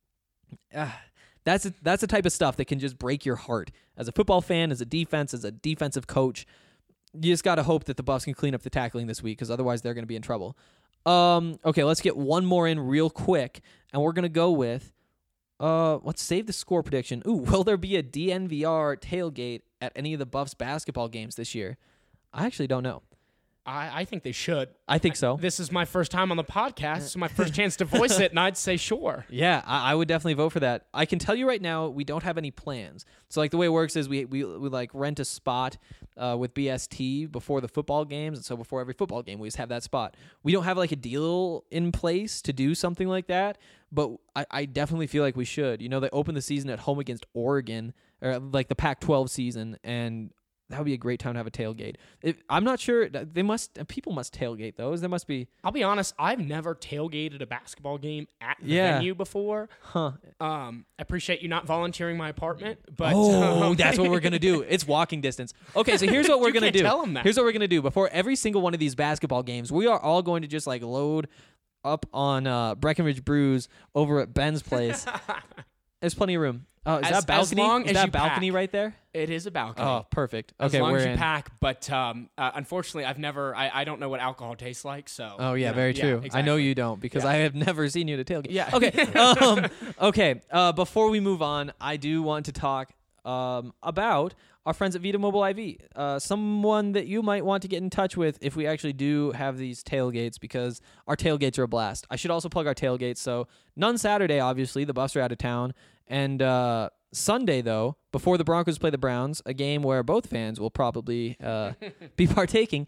Speaker 6: that's the type of stuff that can just break your heart. As a football fan, as a defensive coach, you just got to hope that the Buffs can clean up the tackling this week, because otherwise they're going to be in trouble. Okay, let's get one more in real quick, and we're going to go with let's save the score prediction. Ooh, will there be a DNVR tailgate at any of the Buffs basketball games this year? I actually don't know.
Speaker 7: I think they should.
Speaker 6: I think so.
Speaker 7: This is my first time on the podcast, so my first chance to voice it, and I'd say sure.
Speaker 6: Yeah, I would definitely vote for that. I can tell you right now, we don't have any plans. So, like, the way it works is we like rent a spot with BST before the football games, and so before every football game, we just have that spot. We don't have, like, a deal in place to do something like that, but I definitely feel like we should. They open the season at home against Oregon, or, like, the Pac-12 season, and that would be a great time to have a tailgate. I'm not sure. People must tailgate those. There must be.
Speaker 7: I'll be honest, I've never tailgated a basketball game at the
Speaker 6: Yeah.
Speaker 7: venue before.
Speaker 6: Huh.
Speaker 7: I appreciate you not volunteering my apartment, but
Speaker 6: That's what we're gonna do. It's walking distance. Okay, so here's what we're gonna
Speaker 7: can't
Speaker 6: do.
Speaker 7: tell 'em that.
Speaker 6: Here's what we're gonna do. Before every single one of these basketball games, we are all going to just like load up on Breckenridge Brews over at Ben's place. There's plenty of room. Oh, is that balcony?
Speaker 7: long
Speaker 6: Is
Speaker 7: as
Speaker 6: that
Speaker 7: you
Speaker 6: balcony
Speaker 7: pack.
Speaker 6: right there?
Speaker 7: It is a balcony.
Speaker 6: Oh, perfect.
Speaker 7: As
Speaker 6: Okay,
Speaker 7: long
Speaker 6: we're
Speaker 7: as you
Speaker 6: in.
Speaker 7: pack, but unfortunately, I don't know what alcohol tastes like. So.
Speaker 6: Oh yeah, very true.
Speaker 7: exactly.
Speaker 6: I know you don't, because I have never seen you at a tailgate.
Speaker 7: Yeah.
Speaker 6: Okay. Okay. Before we move on, I do want to talk about our friends at Vita Mobile IV. Someone that you might want to get in touch with if we actually do have these tailgates, because our tailgates are a blast. I should also plug our tailgates. So none Saturday, obviously. The Buffs are out of town. And Sunday, though, before the Broncos play the Browns, a game where both fans will probably be partaking,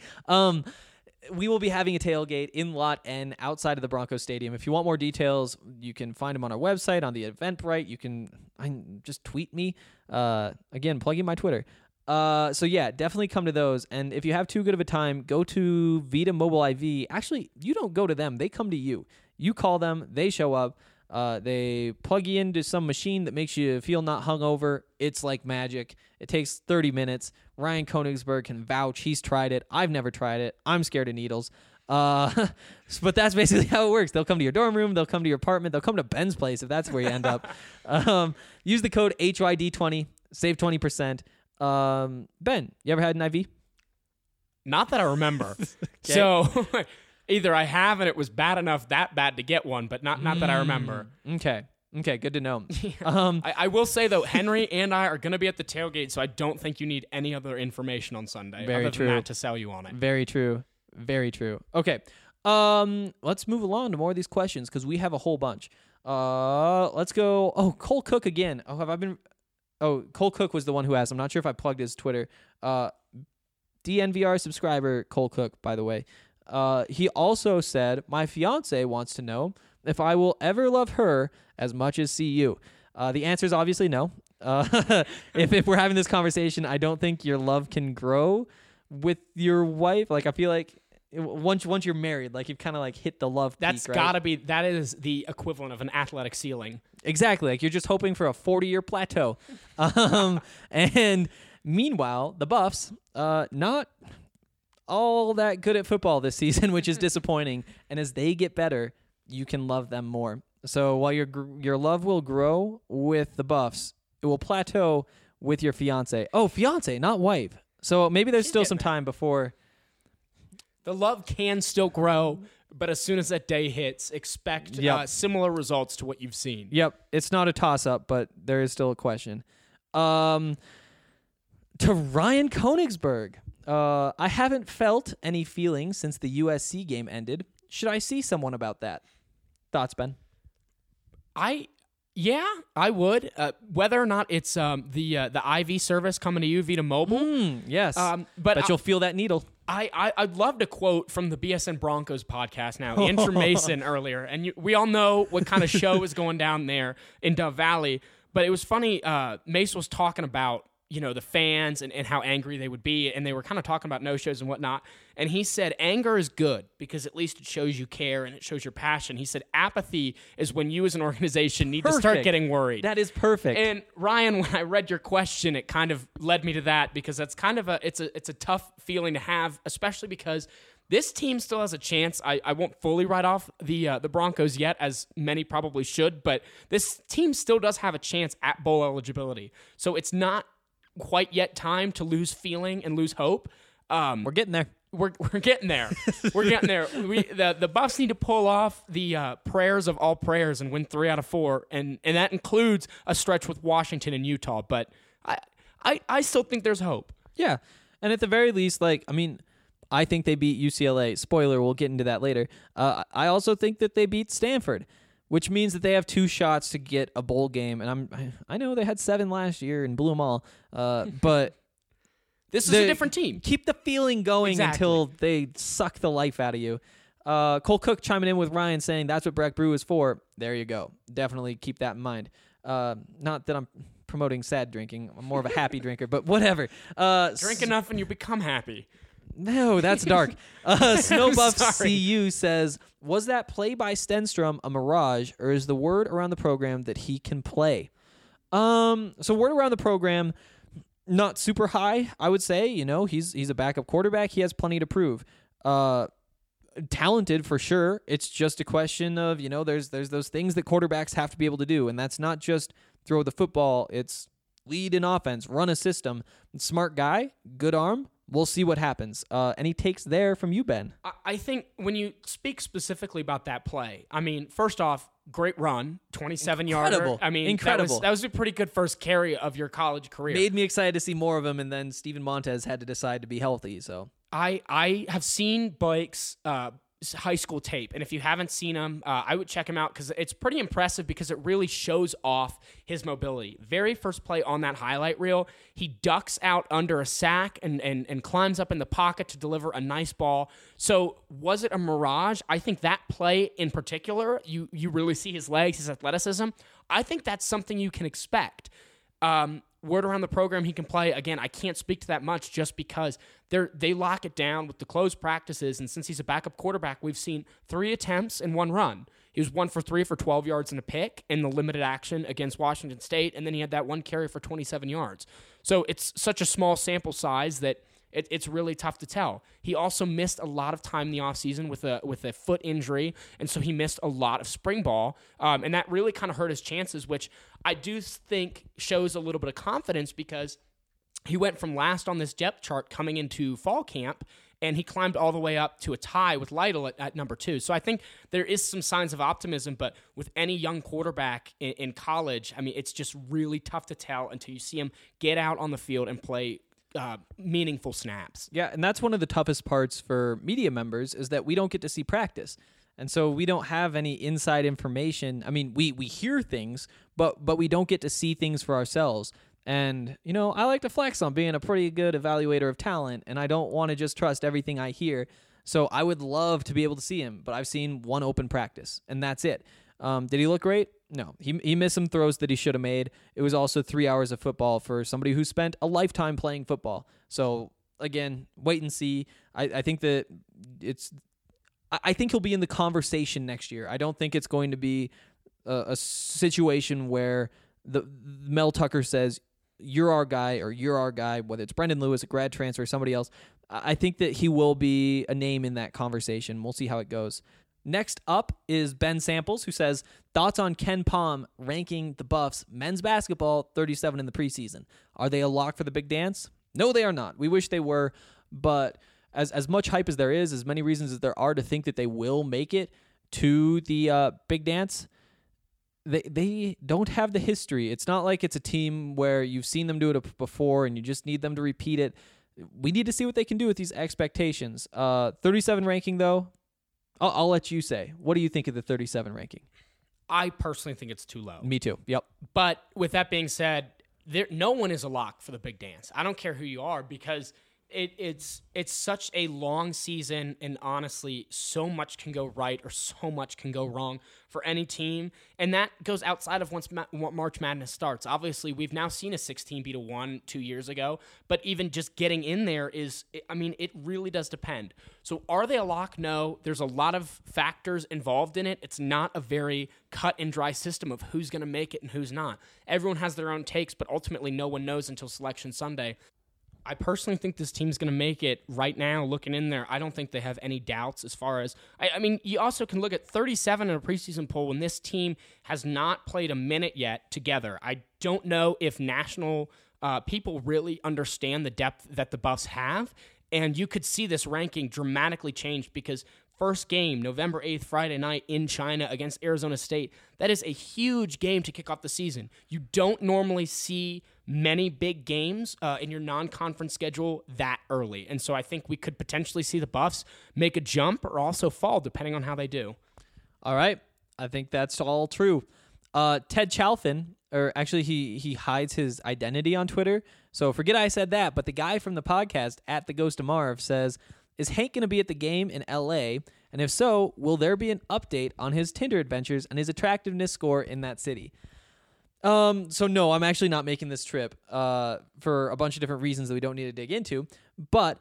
Speaker 6: we will be having a tailgate in Lot N outside of the Broncos Stadium. If you want more details, you can find them on our website, on the Eventbrite. You can just tweet me. Again, plug in my Twitter. So yeah, definitely come to those. And if you have too good of a time, go to Vita Mobile IV. Actually, you don't go to them. They come to you. You call them. They show up. They plug you into some machine that makes you feel not hungover. It's like magic. It takes 30 minutes. Ryan Koenigsberg can vouch. He's tried it. I've never tried it. I'm scared of needles. But that's basically how it works. They'll come to your dorm room. They'll come to your apartment. They'll come to Ben's place if that's where you end up. Use the code HYD20. Save 20%. Ben, you ever had an IV?
Speaker 7: Not that I remember. So either I have and it was that bad to get one, but not that I remember.
Speaker 6: Okay, good to know.
Speaker 7: I will say, though, Henry and I are going to be at the tailgate, so I don't think you need any other information on Sunday
Speaker 6: Very
Speaker 7: other
Speaker 6: true.
Speaker 7: than that to sell you on it.
Speaker 6: Very true. Very true. Okay. Let's move along to more of these questions, because we have a whole bunch. Let's go. Oh, Cole Cook again. Cole Cook was the one who asked. I'm not sure if I plugged his Twitter. DNVR subscriber Cole Cook, by the way. He also said, my fiance wants to know if I will ever love her as much as CU. The answer is obviously no. If we're having this conversation, I don't think your love can grow with your wife. Like, I feel like once you're married, like, you've kind of like hit the love
Speaker 7: That's
Speaker 6: peak, right?
Speaker 7: gotta be. That is the equivalent of an athletic ceiling.
Speaker 6: Exactly. Like, you're just hoping for a 40-year plateau. And meanwhile, the Buffs, not all that good at football this season, which is disappointing. And as they get better, you can love them more. So while your love will grow with the Buffs, it will plateau with your fiance. Oh, fiance, not wife. So maybe there's still some time before.
Speaker 7: The love can still grow, but as soon as that day hits, expect similar results to what you've seen.
Speaker 6: Yep, it's not a toss-up, but there is still a question. To Ryan Koenigsberg, I haven't felt any feelings since the USC game ended. Should I see someone about that? Thoughts, Ben?
Speaker 7: Yeah, I would. Whether or not it's the IV service coming to you via mobile.
Speaker 6: Yes,
Speaker 7: but
Speaker 6: you'll feel that needle.
Speaker 7: I'd love to quote from the BSN Broncos podcast now, Andrew Mason earlier, and we all know what kind of show is going down there in Dove Valley. But it was funny. Mace was talking about the fans and how angry they would be, and they were kind of talking about no-shows and whatnot. And he said anger is good because at least it shows you care and it shows your passion. He said apathy is when you as an organization need to start getting worried.
Speaker 6: That is perfect.
Speaker 7: And Ryan, when I read your question, it kind of led me to that because that's kind of it's a tough feeling to have, especially because this team still has a chance. I won't fully write off the Broncos yet, as many probably should, but this team still does have a chance at bowl eligibility. So it's not quite yet time to lose feeling and lose hope.
Speaker 6: We're getting there.
Speaker 7: We're getting there. We're getting there. The Buffs need to pull off the prayers of all prayers and win 3 out of 4, and that includes a stretch with Washington and Utah. But I still think there's hope.
Speaker 6: Yeah, and at the very least, I think they beat UCLA. Spoiler, we'll get into that later. I also think that they beat Stanford, which means that they have 2 shots to get a bowl game. And I know they had 7 last year and blew them all, but
Speaker 7: this is a different team.
Speaker 6: Keep the feeling going until they suck the life out of you. Cole Cook chiming in with Ryan saying that's what Breck Brew is for. There you go. Definitely keep that in mind. Not that I'm promoting sad drinking. I'm more of a happy drinker, but whatever.
Speaker 7: Drink enough and you become happy.
Speaker 6: No, that's dark. Snowbuff CU says, was that play by Stenstrom a mirage, or is the word around the program that he can play? So word around the program, not super high, I would say. He's a backup quarterback. He has plenty to prove. Talented for sure. It's just a question of, there's those things that quarterbacks have to be able to do, and that's not just throw the football. It's lead in offense, run a system. Smart guy, good arm. We'll see what happens. Any takes there from you, Ben?
Speaker 7: I think when you speak specifically about that play, first off, great run, 27-yarder.
Speaker 6: Incredible.
Speaker 7: That was a pretty good first carry of your college career.
Speaker 6: Made me excited to see more of him, and then Steven Montez had to decide to be healthy. So
Speaker 7: I have seen Blake's high school tape, and if you haven't seen him, I would check him out because it's pretty impressive because it really shows off his mobility. Very first play on that highlight reel, he ducks out under a sack and climbs up in the pocket to deliver a nice ball. So was it a mirage? I think that play in particular, you really see his legs, his athleticism. I think that's something you can expect. Word around the program he can play. Again, I can't speak to that much just because they lock it down with the closed practices, and since he's a backup quarterback, we've seen 3 attempts and 1 run. He was 1 for 3 for 12 yards and a pick in the limited action against Washington State, and then he had that 1 carry for 27 yards. So it's such a small sample size that it's really tough to tell. He also missed a lot of time in the offseason with a foot injury, and so he missed a lot of spring ball, and that really kind of hurt his chances, which I do think shows a little bit of confidence because he went from last on this depth chart coming into fall camp, and he climbed all the way up to a tie with Lytle at number 2. So I think there is some signs of optimism, but with any young quarterback in college, it's just really tough to tell until you see him get out on the field and play meaningful snaps.
Speaker 6: Yeah, and that's one of the toughest parts for media members is that we don't get to see practice. And so we don't have any inside information. We hear things, but we don't get to see things for ourselves. And, I like to flex on being a pretty good evaluator of talent, and I don't want to just trust everything I hear. So I would love to be able to see him, but I've seen 1 open practice, and that's it. Did he look great? No. He missed some throws that he should have made. It was also 3 hours of football for somebody who spent a lifetime playing football. So, again, wait and see. I think that I think he'll be in the conversation next year. I don't think it's going to be a situation where Mel Tucker says, you're our guy, or you're our guy, whether it's Brendan Lewis, a grad transfer, or somebody else. I think that he will be a name in that conversation. We'll see how it goes. Next up is Ben Samples, who says, thoughts on Ken Pom ranking the Buffs men's basketball 37 in the preseason. Are they a lock for the big dance? No, they are not. We wish they were, but as much hype as there is, as many reasons as there are to think that they will make it to the Big Dance, they don't have the history. It's not like it's a team where you've seen them do it before and you just need them to repeat it. We need to see what they can do with these expectations. 37 ranking, though, I'll let you say. What do you think of the 37 ranking?
Speaker 7: I personally think it's too low.
Speaker 6: Me too. Yep.
Speaker 7: But with that being said, no one is a lock for the Big Dance. I don't care who you are, because it's such a long season, and honestly, so much can go right or so much can go wrong for any team, and that goes outside of once March Madness starts. Obviously, we've now seen a 16 beat a 1 2 years ago, but even just getting in there it really does depend. So are they a lock? No. There's a lot of factors involved in it. It's not a very cut and dry system of who's going to make it and who's not. Everyone has their own takes, but ultimately no one knows until Selection Sunday. I personally think this team's going to make it right now. Looking in there, I don't think they have any doubts as far as... I mean, you also can look at 37 in a preseason poll when this team has not played a minute yet together. I don't know if national people really understand the depth that the Buffs have, and you could see this ranking dramatically change because first game, November 8th, Friday night in China against Arizona State, that is a huge game to kick off the season. You don't normally see many big games in your non-conference schedule that early. And so I think we could potentially see the Buffs make a jump or also fall, depending on how they do.
Speaker 6: All right. I think that's all true. Ted Chalfin, or actually he hides his identity on Twitter, so forget I said that, but the guy from the podcast, at the Ghost of Marv, says, is Hank going to be at the game in L.A.? And if so, will there be an update on his Tinder adventures and his attractiveness score in that city? So no, I'm actually not making this trip for a bunch of different reasons that we don't need to dig into. But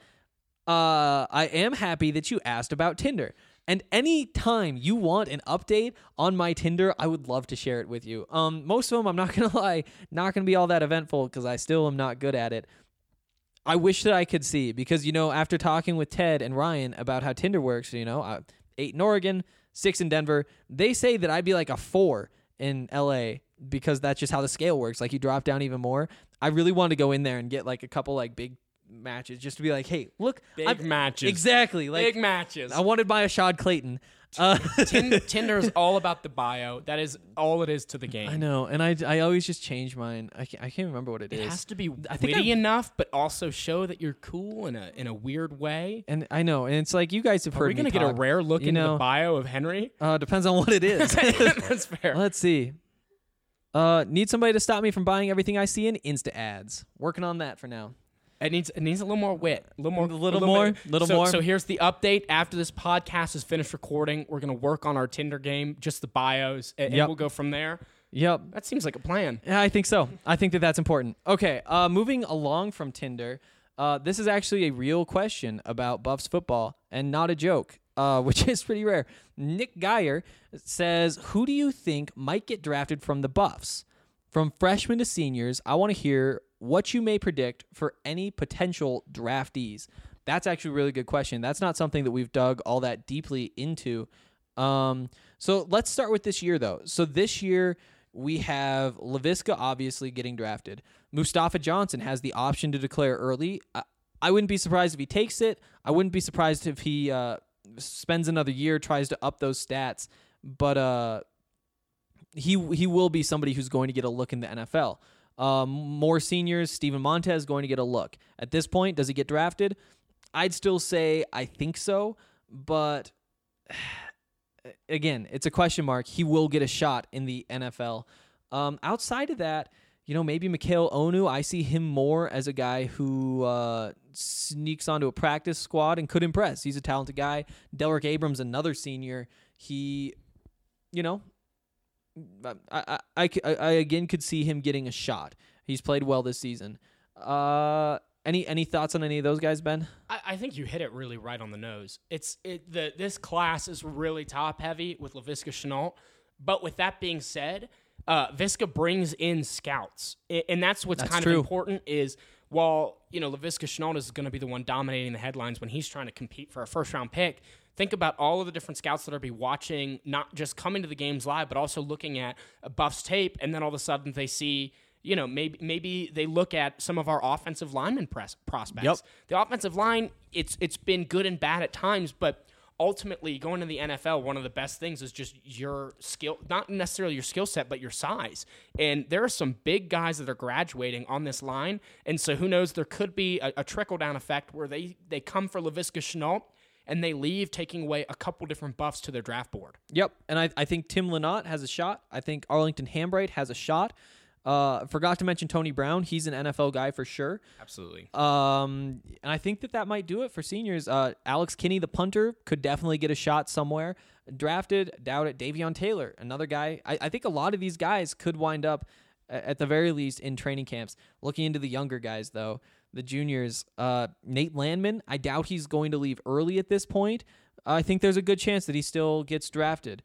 Speaker 6: I am happy that you asked about Tinder. And any time you want an update on my Tinder, I would love to share it with you. Most of them, I'm not going to lie, not going to be all that eventful because I still am not good at it. I wish that I could see because, after talking with Ted and Ryan about how Tinder works, 8 in Oregon, 6 in Denver, they say that I'd be like a 4 in LA because that's just how the scale works. Like you drop down even more. I really wanted to go in there and get like a couple like big matches just to be like, hey, look.
Speaker 7: Big matches.
Speaker 6: Exactly. Like,
Speaker 7: big matches.
Speaker 6: I wanted my Ashad Clayton.
Speaker 7: Tinder is all about the bio. That is all it is to the game.
Speaker 6: I know, and I always just change mine. I can't remember what it is.
Speaker 7: It has to be witty enough, but also show that you're cool in a weird way.
Speaker 6: And I know, and it's like you guys have heard.
Speaker 7: Are we gonna get a rare look into the bio of Henry?
Speaker 6: Depends on what it is.
Speaker 7: That's fair.
Speaker 6: Let's see. Need somebody to stop me from buying everything I see in Insta ads. Working on that for now.
Speaker 7: It needs a little more wit, a little
Speaker 6: more.
Speaker 7: So here's the update. After this podcast is finished recording, we're gonna work on our Tinder game, just the bios, and we'll go from there.
Speaker 6: Yep,
Speaker 7: that seems like a plan.
Speaker 6: Yeah, I think so. I think that's important. Okay, moving along from Tinder, this is actually a real question about Buffs football and not a joke, which is pretty rare. Nick Geyer says, "Who do you think might get drafted from the Buffs, from freshmen to seniors? I want to hear what you may predict for any potential draftees." That's actually a really good question. That's not something that we've dug all that deeply into. So let's start with this year, though. So this year, we have Laviska obviously getting drafted. Mustafa Johnson has the option to declare early. I wouldn't be surprised if he takes it. I wouldn't be surprised if he spends another year, tries to up those stats. But he will be somebody who's going to get a look in the NFL. More seniors, Steven Montez going to get a look. At this point, does he get drafted? I'd still say I think so, but again, it's a question mark. He will get a shot in the NFL. Outside of that, maybe Mikhail Onu, I see him more as a guy who sneaks onto a practice squad and could impress. He's a talented guy. Delrick Abrams, another senior. He, I again could see him getting a shot. He's played well this season. Any thoughts on any of those guys, Ben?
Speaker 7: I think you hit it really right on the nose. This class is really top heavy with Laviska Shenault, but with that being said, Viska brings in scouts, and that's what's kind of important. Is while Laviska Shenault is going to be the one dominating the headlines when he's trying to compete for a first round pick. Think about all of the different scouts that are be watching, not just coming to the games live, but also looking at Buffs tape, and then all of a sudden they see, maybe they look at some of our offensive lineman prospects.
Speaker 6: Yep.
Speaker 7: The offensive line, it's been good and bad at times, but ultimately, going to the NFL, one of the best things is just your skill, not necessarily your skill set, but your size. And there are some big guys that are graduating on this line. And so who knows, there could be a trickle-down effect where they come for Laviska Shenault and they leave, taking away a couple different buffs to their draft board.
Speaker 6: Yep, and I think Tim Lynott has a shot. I think Arlington Hambright has a shot. Forgot to mention Tony Brown. He's an NFL guy for sure.
Speaker 7: Absolutely.
Speaker 6: And I think that might do it for seniors. Alex Kinney, the punter, could definitely get a shot somewhere. Drafted, doubt it. Davion Taylor, another guy. I think a lot of these guys could wind up, at the very least, in training camps. Looking into the younger guys, though, the juniors, Nate Landman, I doubt he's going to leave early at this point. I think there's a good chance that he still gets drafted.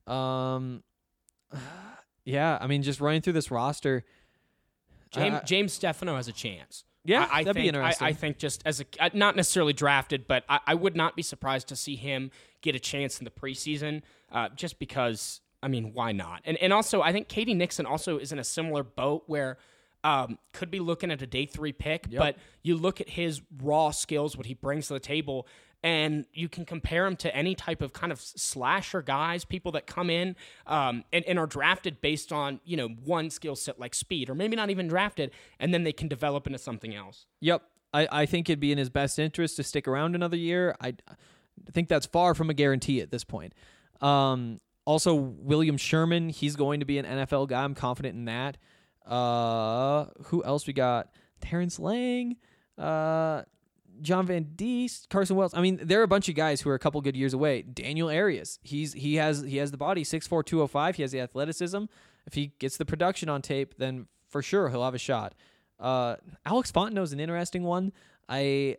Speaker 6: Yeah, I mean, just running through this roster.
Speaker 7: James Stefano has a chance.
Speaker 6: Yeah, that'd be interesting.
Speaker 7: I think just as not necessarily drafted, but I would not be surprised to see him get a chance in the preseason, just because, I mean, why not? And also, I think Katie Nixon also is in a similar boat where could be looking at a day 3 pick, but you look at his raw skills, what he brings to the table, and you can compare him to any type of kind of slasher guys, people that come in and are drafted based on, one skill set like speed, or maybe not even drafted, and then they can develop into something else.
Speaker 6: Yep. I think it'd be in his best interest to stick around another year. I think that's far from a guarantee at this point. Also, William Sherman, he's going to be an NFL guy. I'm confident in that. Who else we got? Terrence Lang, John Van Diest, Carson Wells. I mean, there are a bunch of guys who are a couple good years away. Daniel Arias, he has the body, 6'4", 205. He has the athleticism. If he gets the production on tape, then for sure he'll have a shot. Alex Fontenot is an interesting one. I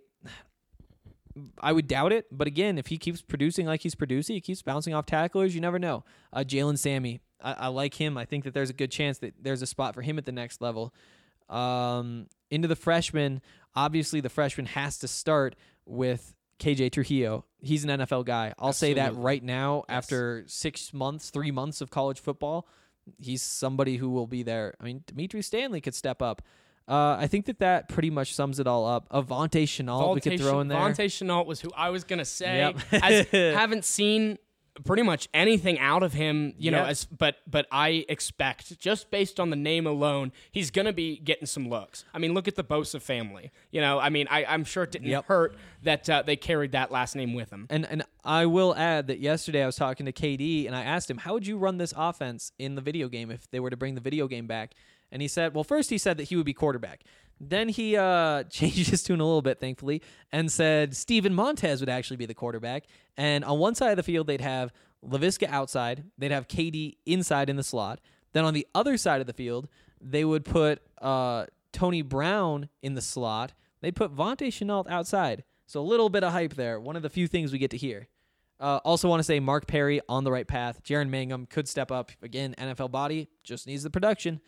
Speaker 6: would doubt it, but again, if he keeps producing like he's producing, he keeps bouncing off tacklers, you never know. Jalen Sammy, I like him. I think that there's a good chance that there's a spot for him at the next level. Into the freshmen, obviously the freshman has to start with KJ Trujillo. He's an NFL guy. I'll say that right now. Yes. After 3 months of college football, he's somebody who will be there. I mean, Dimitri Stanley could step up. I think that pretty much sums it all up. Avante Shenault we could throw in there.
Speaker 7: Avante Shenault was who I was going to say.
Speaker 6: Yep.
Speaker 7: Haven't seen pretty much anything out of him, but I expect, just based on the name alone, he's going to be getting some looks. I mean, look at the Bosa family. I'm sure it didn't hurt that they carried that last name with him.
Speaker 6: And I will add that yesterday I was talking to KD, and I asked him, how would you run this offense in the video game if they were to bring the video game back? And he said, first he said that he would be quarterback. Then he changed his tune a little bit, thankfully, and said Steven Montez would actually be the quarterback. And on one side of the field, they'd have Laviska outside. They'd have KD inside in the slot. Then on the other side of the field, they would put Tony Brown in the slot. They'd put Avante Shenault outside. So a little bit of hype there. One of the few things we get to hear. Also want to say Mark Perry on the right path. Jaron Mangum could step up. Again, NFL body, just needs the production.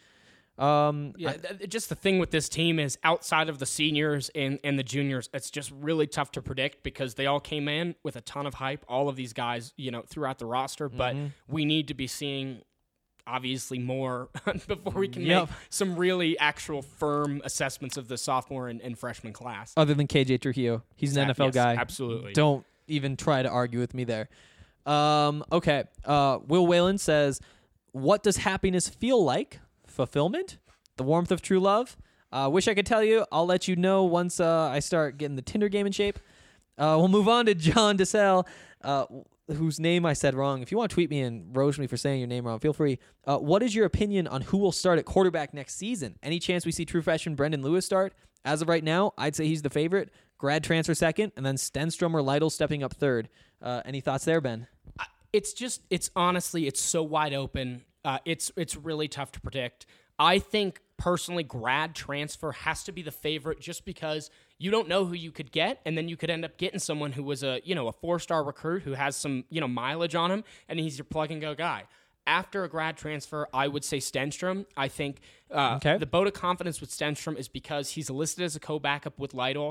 Speaker 7: Just the thing with this team is outside of the seniors and the juniors, it's just really tough to predict because they all came in with a ton of hype, all of these guys, throughout the roster, but we need to be seeing obviously more before we can make some really actual firm assessments of the sophomore and freshman class.
Speaker 6: Other than KJ Trujillo. He's an NFL guy.
Speaker 7: Absolutely.
Speaker 6: Don't even try to argue with me there. Okay. Will Whalen says, what does happiness feel like? Fulfillment, the warmth of true love. Wish I could tell you. I'll let you know once I start getting the Tinder game in shape. We'll move on to John DeSalle, whose name I said wrong. If you want to tweet me and roast me for saying your name wrong, feel free. What is your opinion on who will start at quarterback next season? Any chance we see true freshman Brendan Lewis start? As of right now, I'd say he's the favorite. Grad transfer second, and then Stenstrom or Lytle stepping up third. Any thoughts there, Ben?
Speaker 7: It's honestly, it's so wide open. It's really tough to predict. I think personally grad transfer has to be the favorite just because you don't know who you could get, and then you could end up getting someone who was a 4-star recruit who has some mileage on him, and he's your plug and go guy. After a grad transfer, I would say Stenstrom. I think the vote of confidence with Stenstrom is because he's listed as a co-backup with Lytle.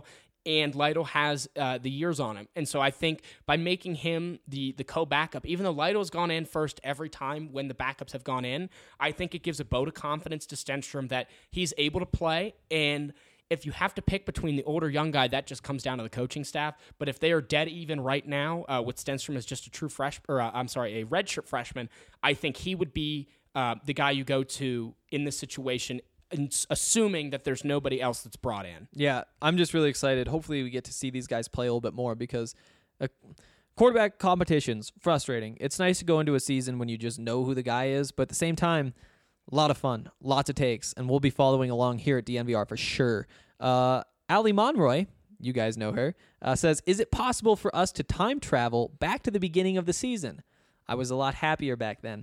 Speaker 7: and Lytle has the years on him. And so I think by making him the co-backup, even though Lytle's gone in first every time when the backups have gone in, I think it gives a vote of confidence to Stenstrom that he's able to play. And if you have to pick between the older young guy, that just comes down to the coaching staff. But if they are dead even right now, with Stenstrom as just a true a redshirt freshman, I think he would be the guy you go to in this situation, assuming that there's nobody else that's brought in.
Speaker 6: Yeah, I'm just really excited. Hopefully we get to see these guys play a little bit more because quarterback competition's frustrating. It's nice to go into a season when you just know who the guy is, but at the same time, a lot of fun, lots of takes, and we'll be following along here at DNVR for sure. Ali Monroy, you guys know her, says, is it possible for us to time travel back to the beginning of the season? I was a lot happier back then.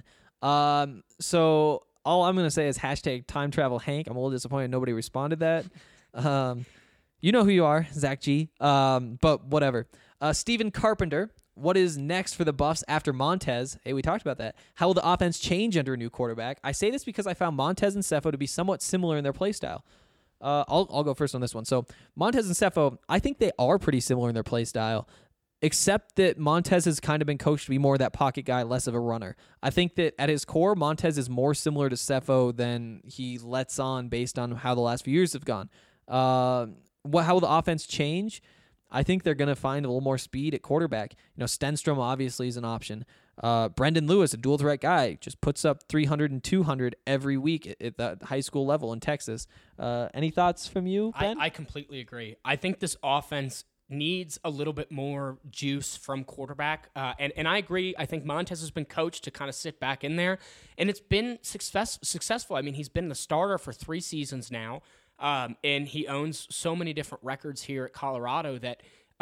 Speaker 6: So all I'm going to say is hashtag time travel Hank. I'm a little disappointed nobody responded that. You know who you are, Zach G. But whatever. Stephen Carpenter, what is next for the Buffs after Montez? Hey, we talked about that. How will the offense change under a new quarterback? I say this because I found Montez and Sefo to be somewhat similar in their play style. I'll go first on this one. So Montez and Sefo, I think they are pretty similar in their play style, except that Montez has kind of been coached to be more that pocket guy, less of a runner. I think that at his core, Montez is more similar to Sefo than he lets on based on how the last few years have gone. How will the offense change? I think they're going to find a little more speed at quarterback. Stenstrom obviously is an option. Brendan Lewis, a dual threat guy, just puts up 300 and 200 every week at the high school level in Texas. Any thoughts from you, Ben?
Speaker 7: I completely agree. I think this offense needs a little bit more juice from quarterback. And I agree. I think Montez has been coached to kind of sit back in there, and it's been successful. I mean, he's been the starter for 3 seasons now. And he owns so many different records here at Colorado that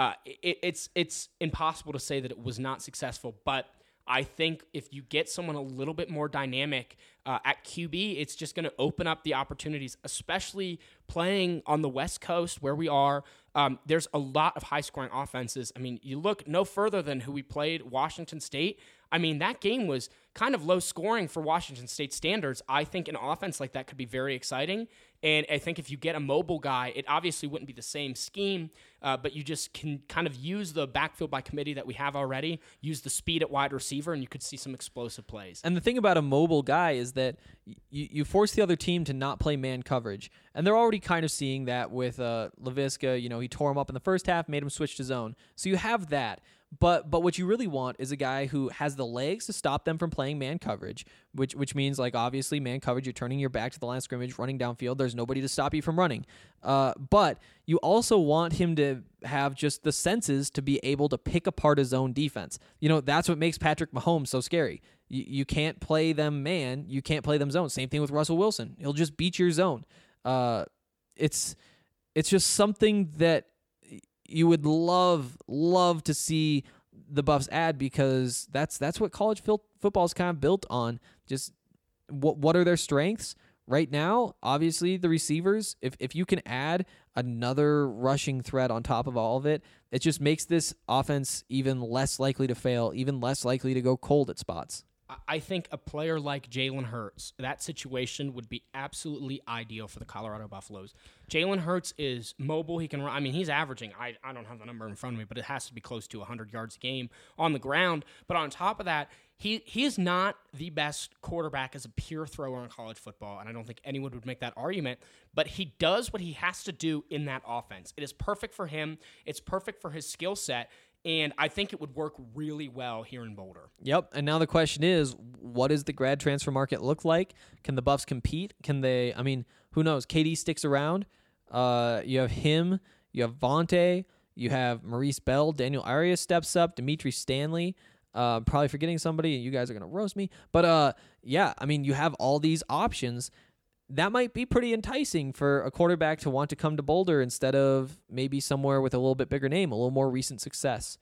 Speaker 7: it's impossible to say that it was not successful. But I think if you get someone a little bit more dynamic at QB, it's just going to open up the opportunities, especially playing on the West Coast where we are. There's a lot of high-scoring offenses. I mean, you look no further than who we played, Washington State. I mean, that game was kind of low scoring for Washington State standards. I think an offense like that could be very exciting. And I think if you get a mobile guy, it obviously wouldn't be the same scheme, but you just can kind of use the backfield by committee that we have already, use the speed at wide receiver, and you could see some explosive plays.
Speaker 6: And the thing about a mobile guy is that you force the other team to not play man coverage. And they're already kind of seeing that with Laviska. He tore him up in the first half, made him switch to zone. So you have that. But what you really want is a guy who has the legs to stop them from playing man coverage, which means, like, obviously man coverage, you're turning your back to the line of scrimmage, running downfield. There's nobody to stop you from running. But you also want him to have just the senses to be able to pick apart his own defense. That's what makes Patrick Mahomes so scary. You can't play them man. You can't play them zone. Same thing with Russell Wilson. He'll just beat your zone. It's just something that you would love to see the Buffs add, because that's what college football is kind of built on. Just what are their strengths right now? Obviously, the receivers. If you can add another rushing threat on top of all of it, it just makes this offense even less likely to fail, even less likely to go cold at spots.
Speaker 7: I think a player like Jalen Hurts, that situation would be absolutely ideal for the Colorado Buffaloes. Jalen Hurts is mobile. He can run. I mean, he's averaging, I don't have the number in front of me, but it has to be close to 100 yards a game on the ground. But on top of that, he is not the best quarterback as a pure thrower in college football, and I don't think anyone would make that argument. But he does what he has to do in that offense. It is perfect for him. It's perfect for his skill set. And I think it would work really well here in Boulder. Yep.
Speaker 6: And now the question is, what does the grad transfer market look like? Can the Buffs compete? Can they? I mean, who knows? KD sticks around. You have him. You have Vontae. You have Maurice Bell. Daniel Arias steps up. Dimitri Stanley. Probably forgetting somebody, and you guys are going to roast me. But, yeah, I mean, you have all these options. That might be pretty enticing for a quarterback to want to come to Boulder instead of maybe somewhere with a little bit bigger name, a little more recent success.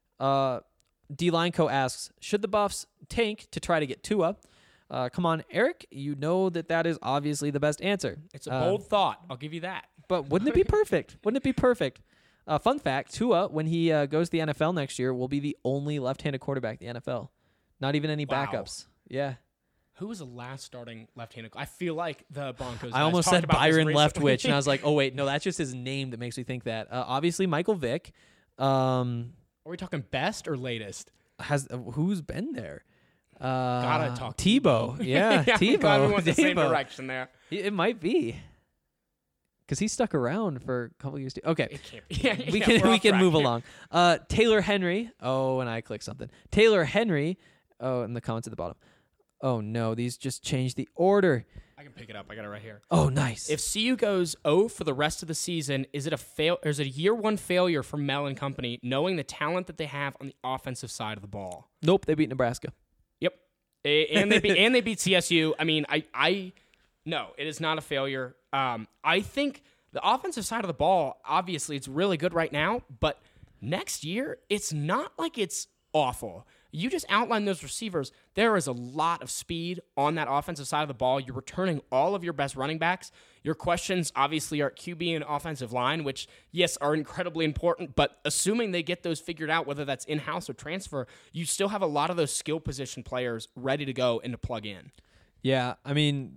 Speaker 6: D. Lineco asks, should the Buffs tank to try to get Tua? Come on, Eric, you know that is obviously the best answer.
Speaker 7: It's a bold thought. I'll give you that.
Speaker 6: But wouldn't it be perfect? Wouldn't it be perfect? Fun fact, Tua, when he goes to the NFL next year, will be the only left-handed quarterback in the NFL. Not even any backups. Yeah.
Speaker 7: Who was the last starting left-handed? I feel like the Broncos.
Speaker 6: I
Speaker 7: guys
Speaker 6: almost
Speaker 7: talked
Speaker 6: said
Speaker 7: about this
Speaker 6: Byron
Speaker 7: recently.
Speaker 6: Leftwich, and I was like, oh, wait, no, that's just his name that makes me think that. Obviously, Michael Vick.
Speaker 7: Are we talking best or latest?
Speaker 6: Who's been there?
Speaker 7: Gotta talk
Speaker 6: Tebow. Yeah,
Speaker 7: yeah, we
Speaker 6: Tebow.
Speaker 7: went the same
Speaker 6: Tebow.
Speaker 7: direction there.
Speaker 6: It might be. Because he stuck around for a couple years too. Okay.
Speaker 7: It can't be. Yeah,
Speaker 6: we
Speaker 7: we're
Speaker 6: can
Speaker 7: off track
Speaker 6: move
Speaker 7: here.
Speaker 6: along. Taylor Henry. Oh, and I clicked something. Taylor Henry. Oh, in the comments at the bottom. Oh no, these just changed the order.
Speaker 7: I can pick it up. I got it right here.
Speaker 6: Oh, nice.
Speaker 7: If CU goes 0 for the rest of the season, is it a year one failure for Mel and company, knowing the talent that they have on the offensive side of the ball?
Speaker 6: Nope, they beat Nebraska.
Speaker 7: Yep, and they beat CSU. I mean, no, it is not a failure. I think the offensive side of the ball, obviously, it's really good right now, but next year, it's not like it's awful. You just outlined those receivers. There is a lot of speed on that offensive side of the ball. You're returning all of your best running backs. Your questions, obviously, are at QB and offensive line, which, yes, are incredibly important, but assuming they get those figured out, whether that's in-house or transfer, you still have a lot of those skill position players ready to go and to plug in.
Speaker 6: Yeah, I mean,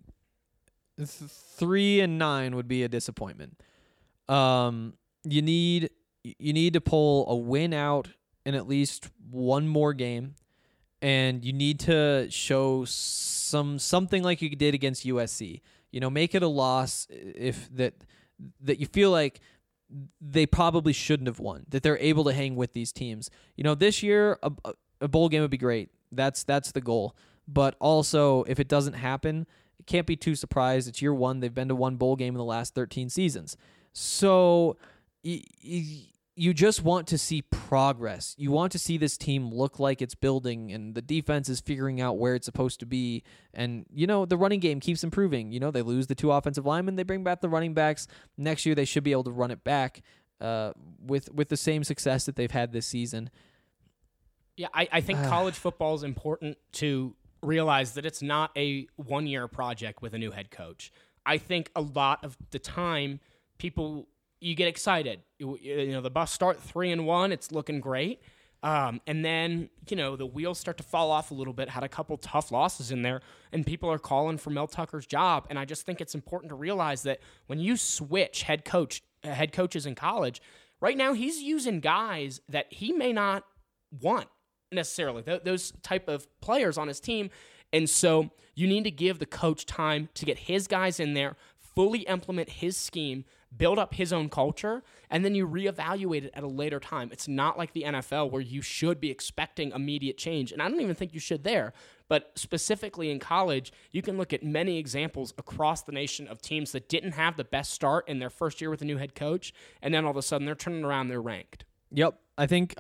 Speaker 6: 3-9 would be a disappointment. You need to pull a win out in at least one more game, and you need to show something like you did against USC. Make it a loss if that you feel like they probably shouldn't have won, that they're able to hang with these teams. This year a bowl game would be great. That's the goal. But also, if it doesn't happen, you can't be too surprised. It's year one. They've been to one bowl game in the last 13 seasons. So you just want to see progress. You want to see this team look like it's building and the defense is figuring out where it's supposed to be. And, the running game keeps improving. They lose the 2 offensive linemen. They bring back the running backs. Next year, they should be able to run it back with the same success that they've had this season.
Speaker 7: Yeah, I think college football is important to realize that it's not a one-year project with a new head coach. I think a lot of the time, you get excited. The Buffs start 3-1. It's looking great. And then, the wheels start to fall off a little bit. Had a couple tough losses in there, and people are calling for Mel Tucker's job. And I just think it's important to realize that when you switch head coaches in college, right now he's using guys that he may not want necessarily, those type of players on his team. And so you need to give the coach time to get his guys in there, fully implement his scheme, build up his own culture, and then you reevaluate it at a later time. It's not like the NFL where you should be expecting immediate change, and I don't even think you should there. But specifically in college, you can look at many examples across the nation of teams that didn't have the best start in their first year with a new head coach, and then all of a sudden they're turning around, they're ranked.
Speaker 6: Yep. I think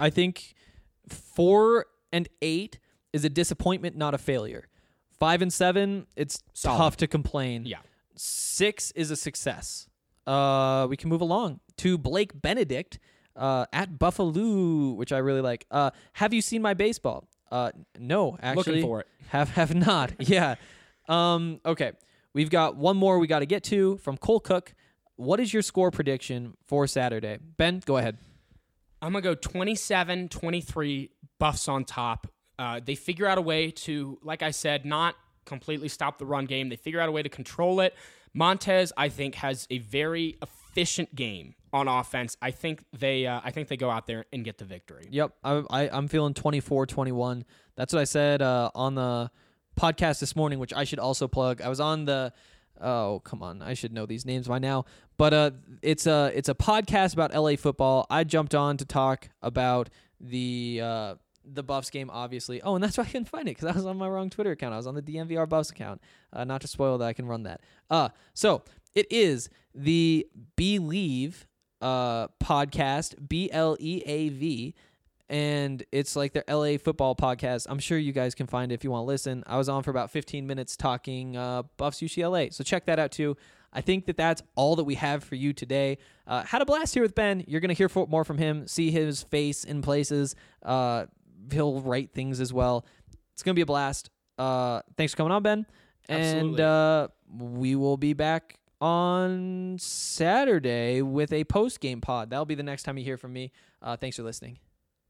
Speaker 6: 4-8 is a disappointment, not a failure. 5-7, it's
Speaker 7: Solid.
Speaker 6: tough to complain.
Speaker 7: Yeah.
Speaker 6: 6 is a success. We can move along to Blake Benedict at Buffalo, which I really like. Have you seen my baseball? No, actually.
Speaker 7: Looking for it.
Speaker 6: Have not. Yeah. Okay. We've got one more we got to get to from Cole Cook. What is your score prediction for Saturday? Ben, go ahead.
Speaker 7: I'm going to go 27-23, Buffs on top. They figure out a way to, like I said, not completely stop the run game. They figure out a way to control it. Montez, I think, has a very efficient game on offense. I think they go out there and get the victory.
Speaker 6: Yep, I'm feeling 24-21. That's what I said on the podcast this morning, which I should also plug. I was on the come on, I should know these names by now. But it's a podcast about LA football. I jumped on to talk about the Buffs game, obviously. Oh, and that's why I couldn't find it, because I was on my wrong Twitter account. I was on the DMVR Buffs account. Not to spoil that, I can run that. So it is the Believe podcast, BLEAV, and it's like their LA football podcast. I'm sure you guys can find it if you want to listen. I was on for about 15 minutes talking Buffs UCLA, so check that out too. I think that's all that we have for you today. Had a blast here with Ben. You're going to hear more from him, see his face in places. He'll write things as well. It's going to be a blast. Thanks for coming on, Ben.
Speaker 7: Absolutely.
Speaker 6: And we will be back on Saturday with a post-game pod. That'll be the next time you hear from me. Thanks for listening.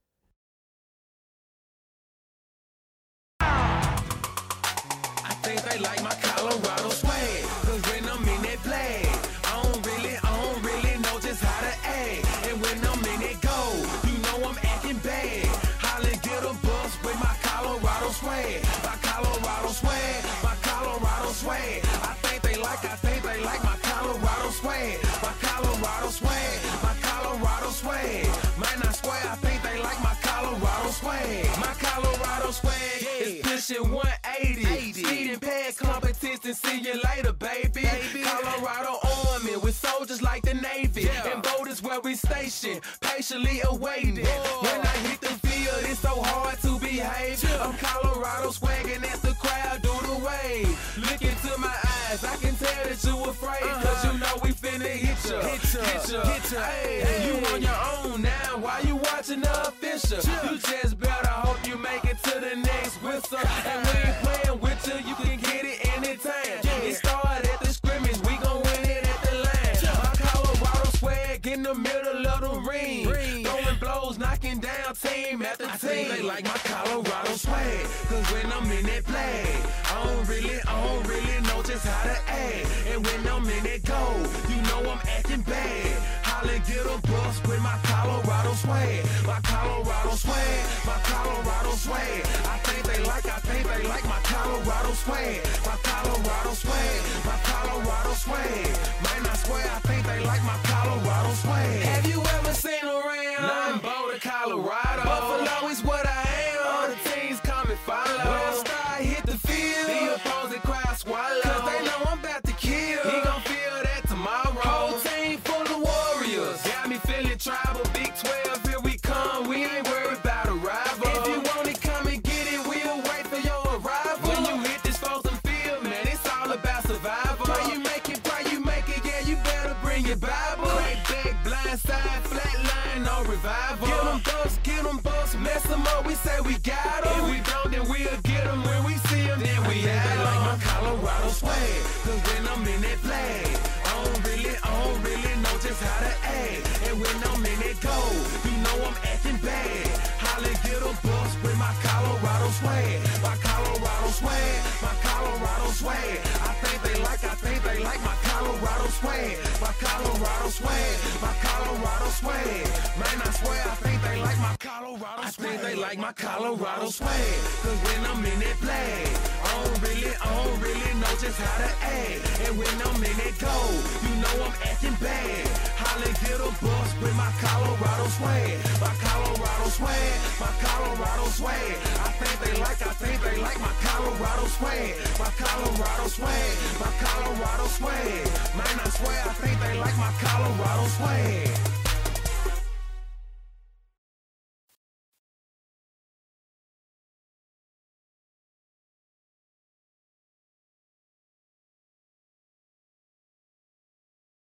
Speaker 5: I think you later, baby. Colorado Army with soldiers like the Navy. And boat is where we station, patiently awaiting. When I hit the field, it's so hard to behave. I'm Colorado swagging as the crowd do the wave. Look into my eyes, I can tell that you afraid. Cause you know we finna hit ya. Hey, you on your own now, why you watching the official? You just better hope you make it to the next whistle. And we ain't playing with you can get it anytime. It started at the scrimmage, we gon' win it at the line. My Colorado swag in the middle of the ring. Throwing blows, knocking down team after team. They like my Colorado swag, cause when I'm in that play, I don't really know just how to act. And when I'm in that goal, you know I'm acting bad. Holla, get a bus with my Colorado swag. My Colorado swag, my Colorado swag. I think they like my Colorado swag. My Colorado swag, my Colorado swag. Man, I swear I think they like my Colorado swag. Have you ever seen around? Nah, I'm Boulder, Colorado. Buffalo is what I am. All the teams come and follow. When I start hit the field, the opposing crowd swallow. Cause they know I'm about to kill. He gon' feel that tomorrow. Whole team full of warriors. Got me feeling tribal. Big 12, here we come. We ain't worried about a rival. If you want it, come and get it. We'll wait for your arrival. When you hit this frozen field, man, it's all about survival. Pray you make it, yeah, you better bring your Bible. Crack back, blind side, flat line, no revival. Get them bucks, mess them up, we say we got them. If we don't, then we'll get them. When we see them, then we have them. They like my Colorado swag, cause when I'm in that flag, I don't really know just how to act. And when I'm in that goal, you know I'm acting bad. Holla, get a bus with my Colorado swag. My Colorado swag, my Colorado swag. I think they like my Colorado swag. My Colorado swag, my Colorado swag. Man, I swear I think they like my Colorado swag. I think they like my Colorado swag. Cause when I'm in that flag, I don't really know just how to act. And when I'm in that goal, you know I'm acting bad. Holla, get a bus with my Colorado swag. My Colorado swag, my Colorado swag. I think they like my Colorado swag. My Colorado swag, my Colorado swag. Man, I swear I think they like my Colorado swag.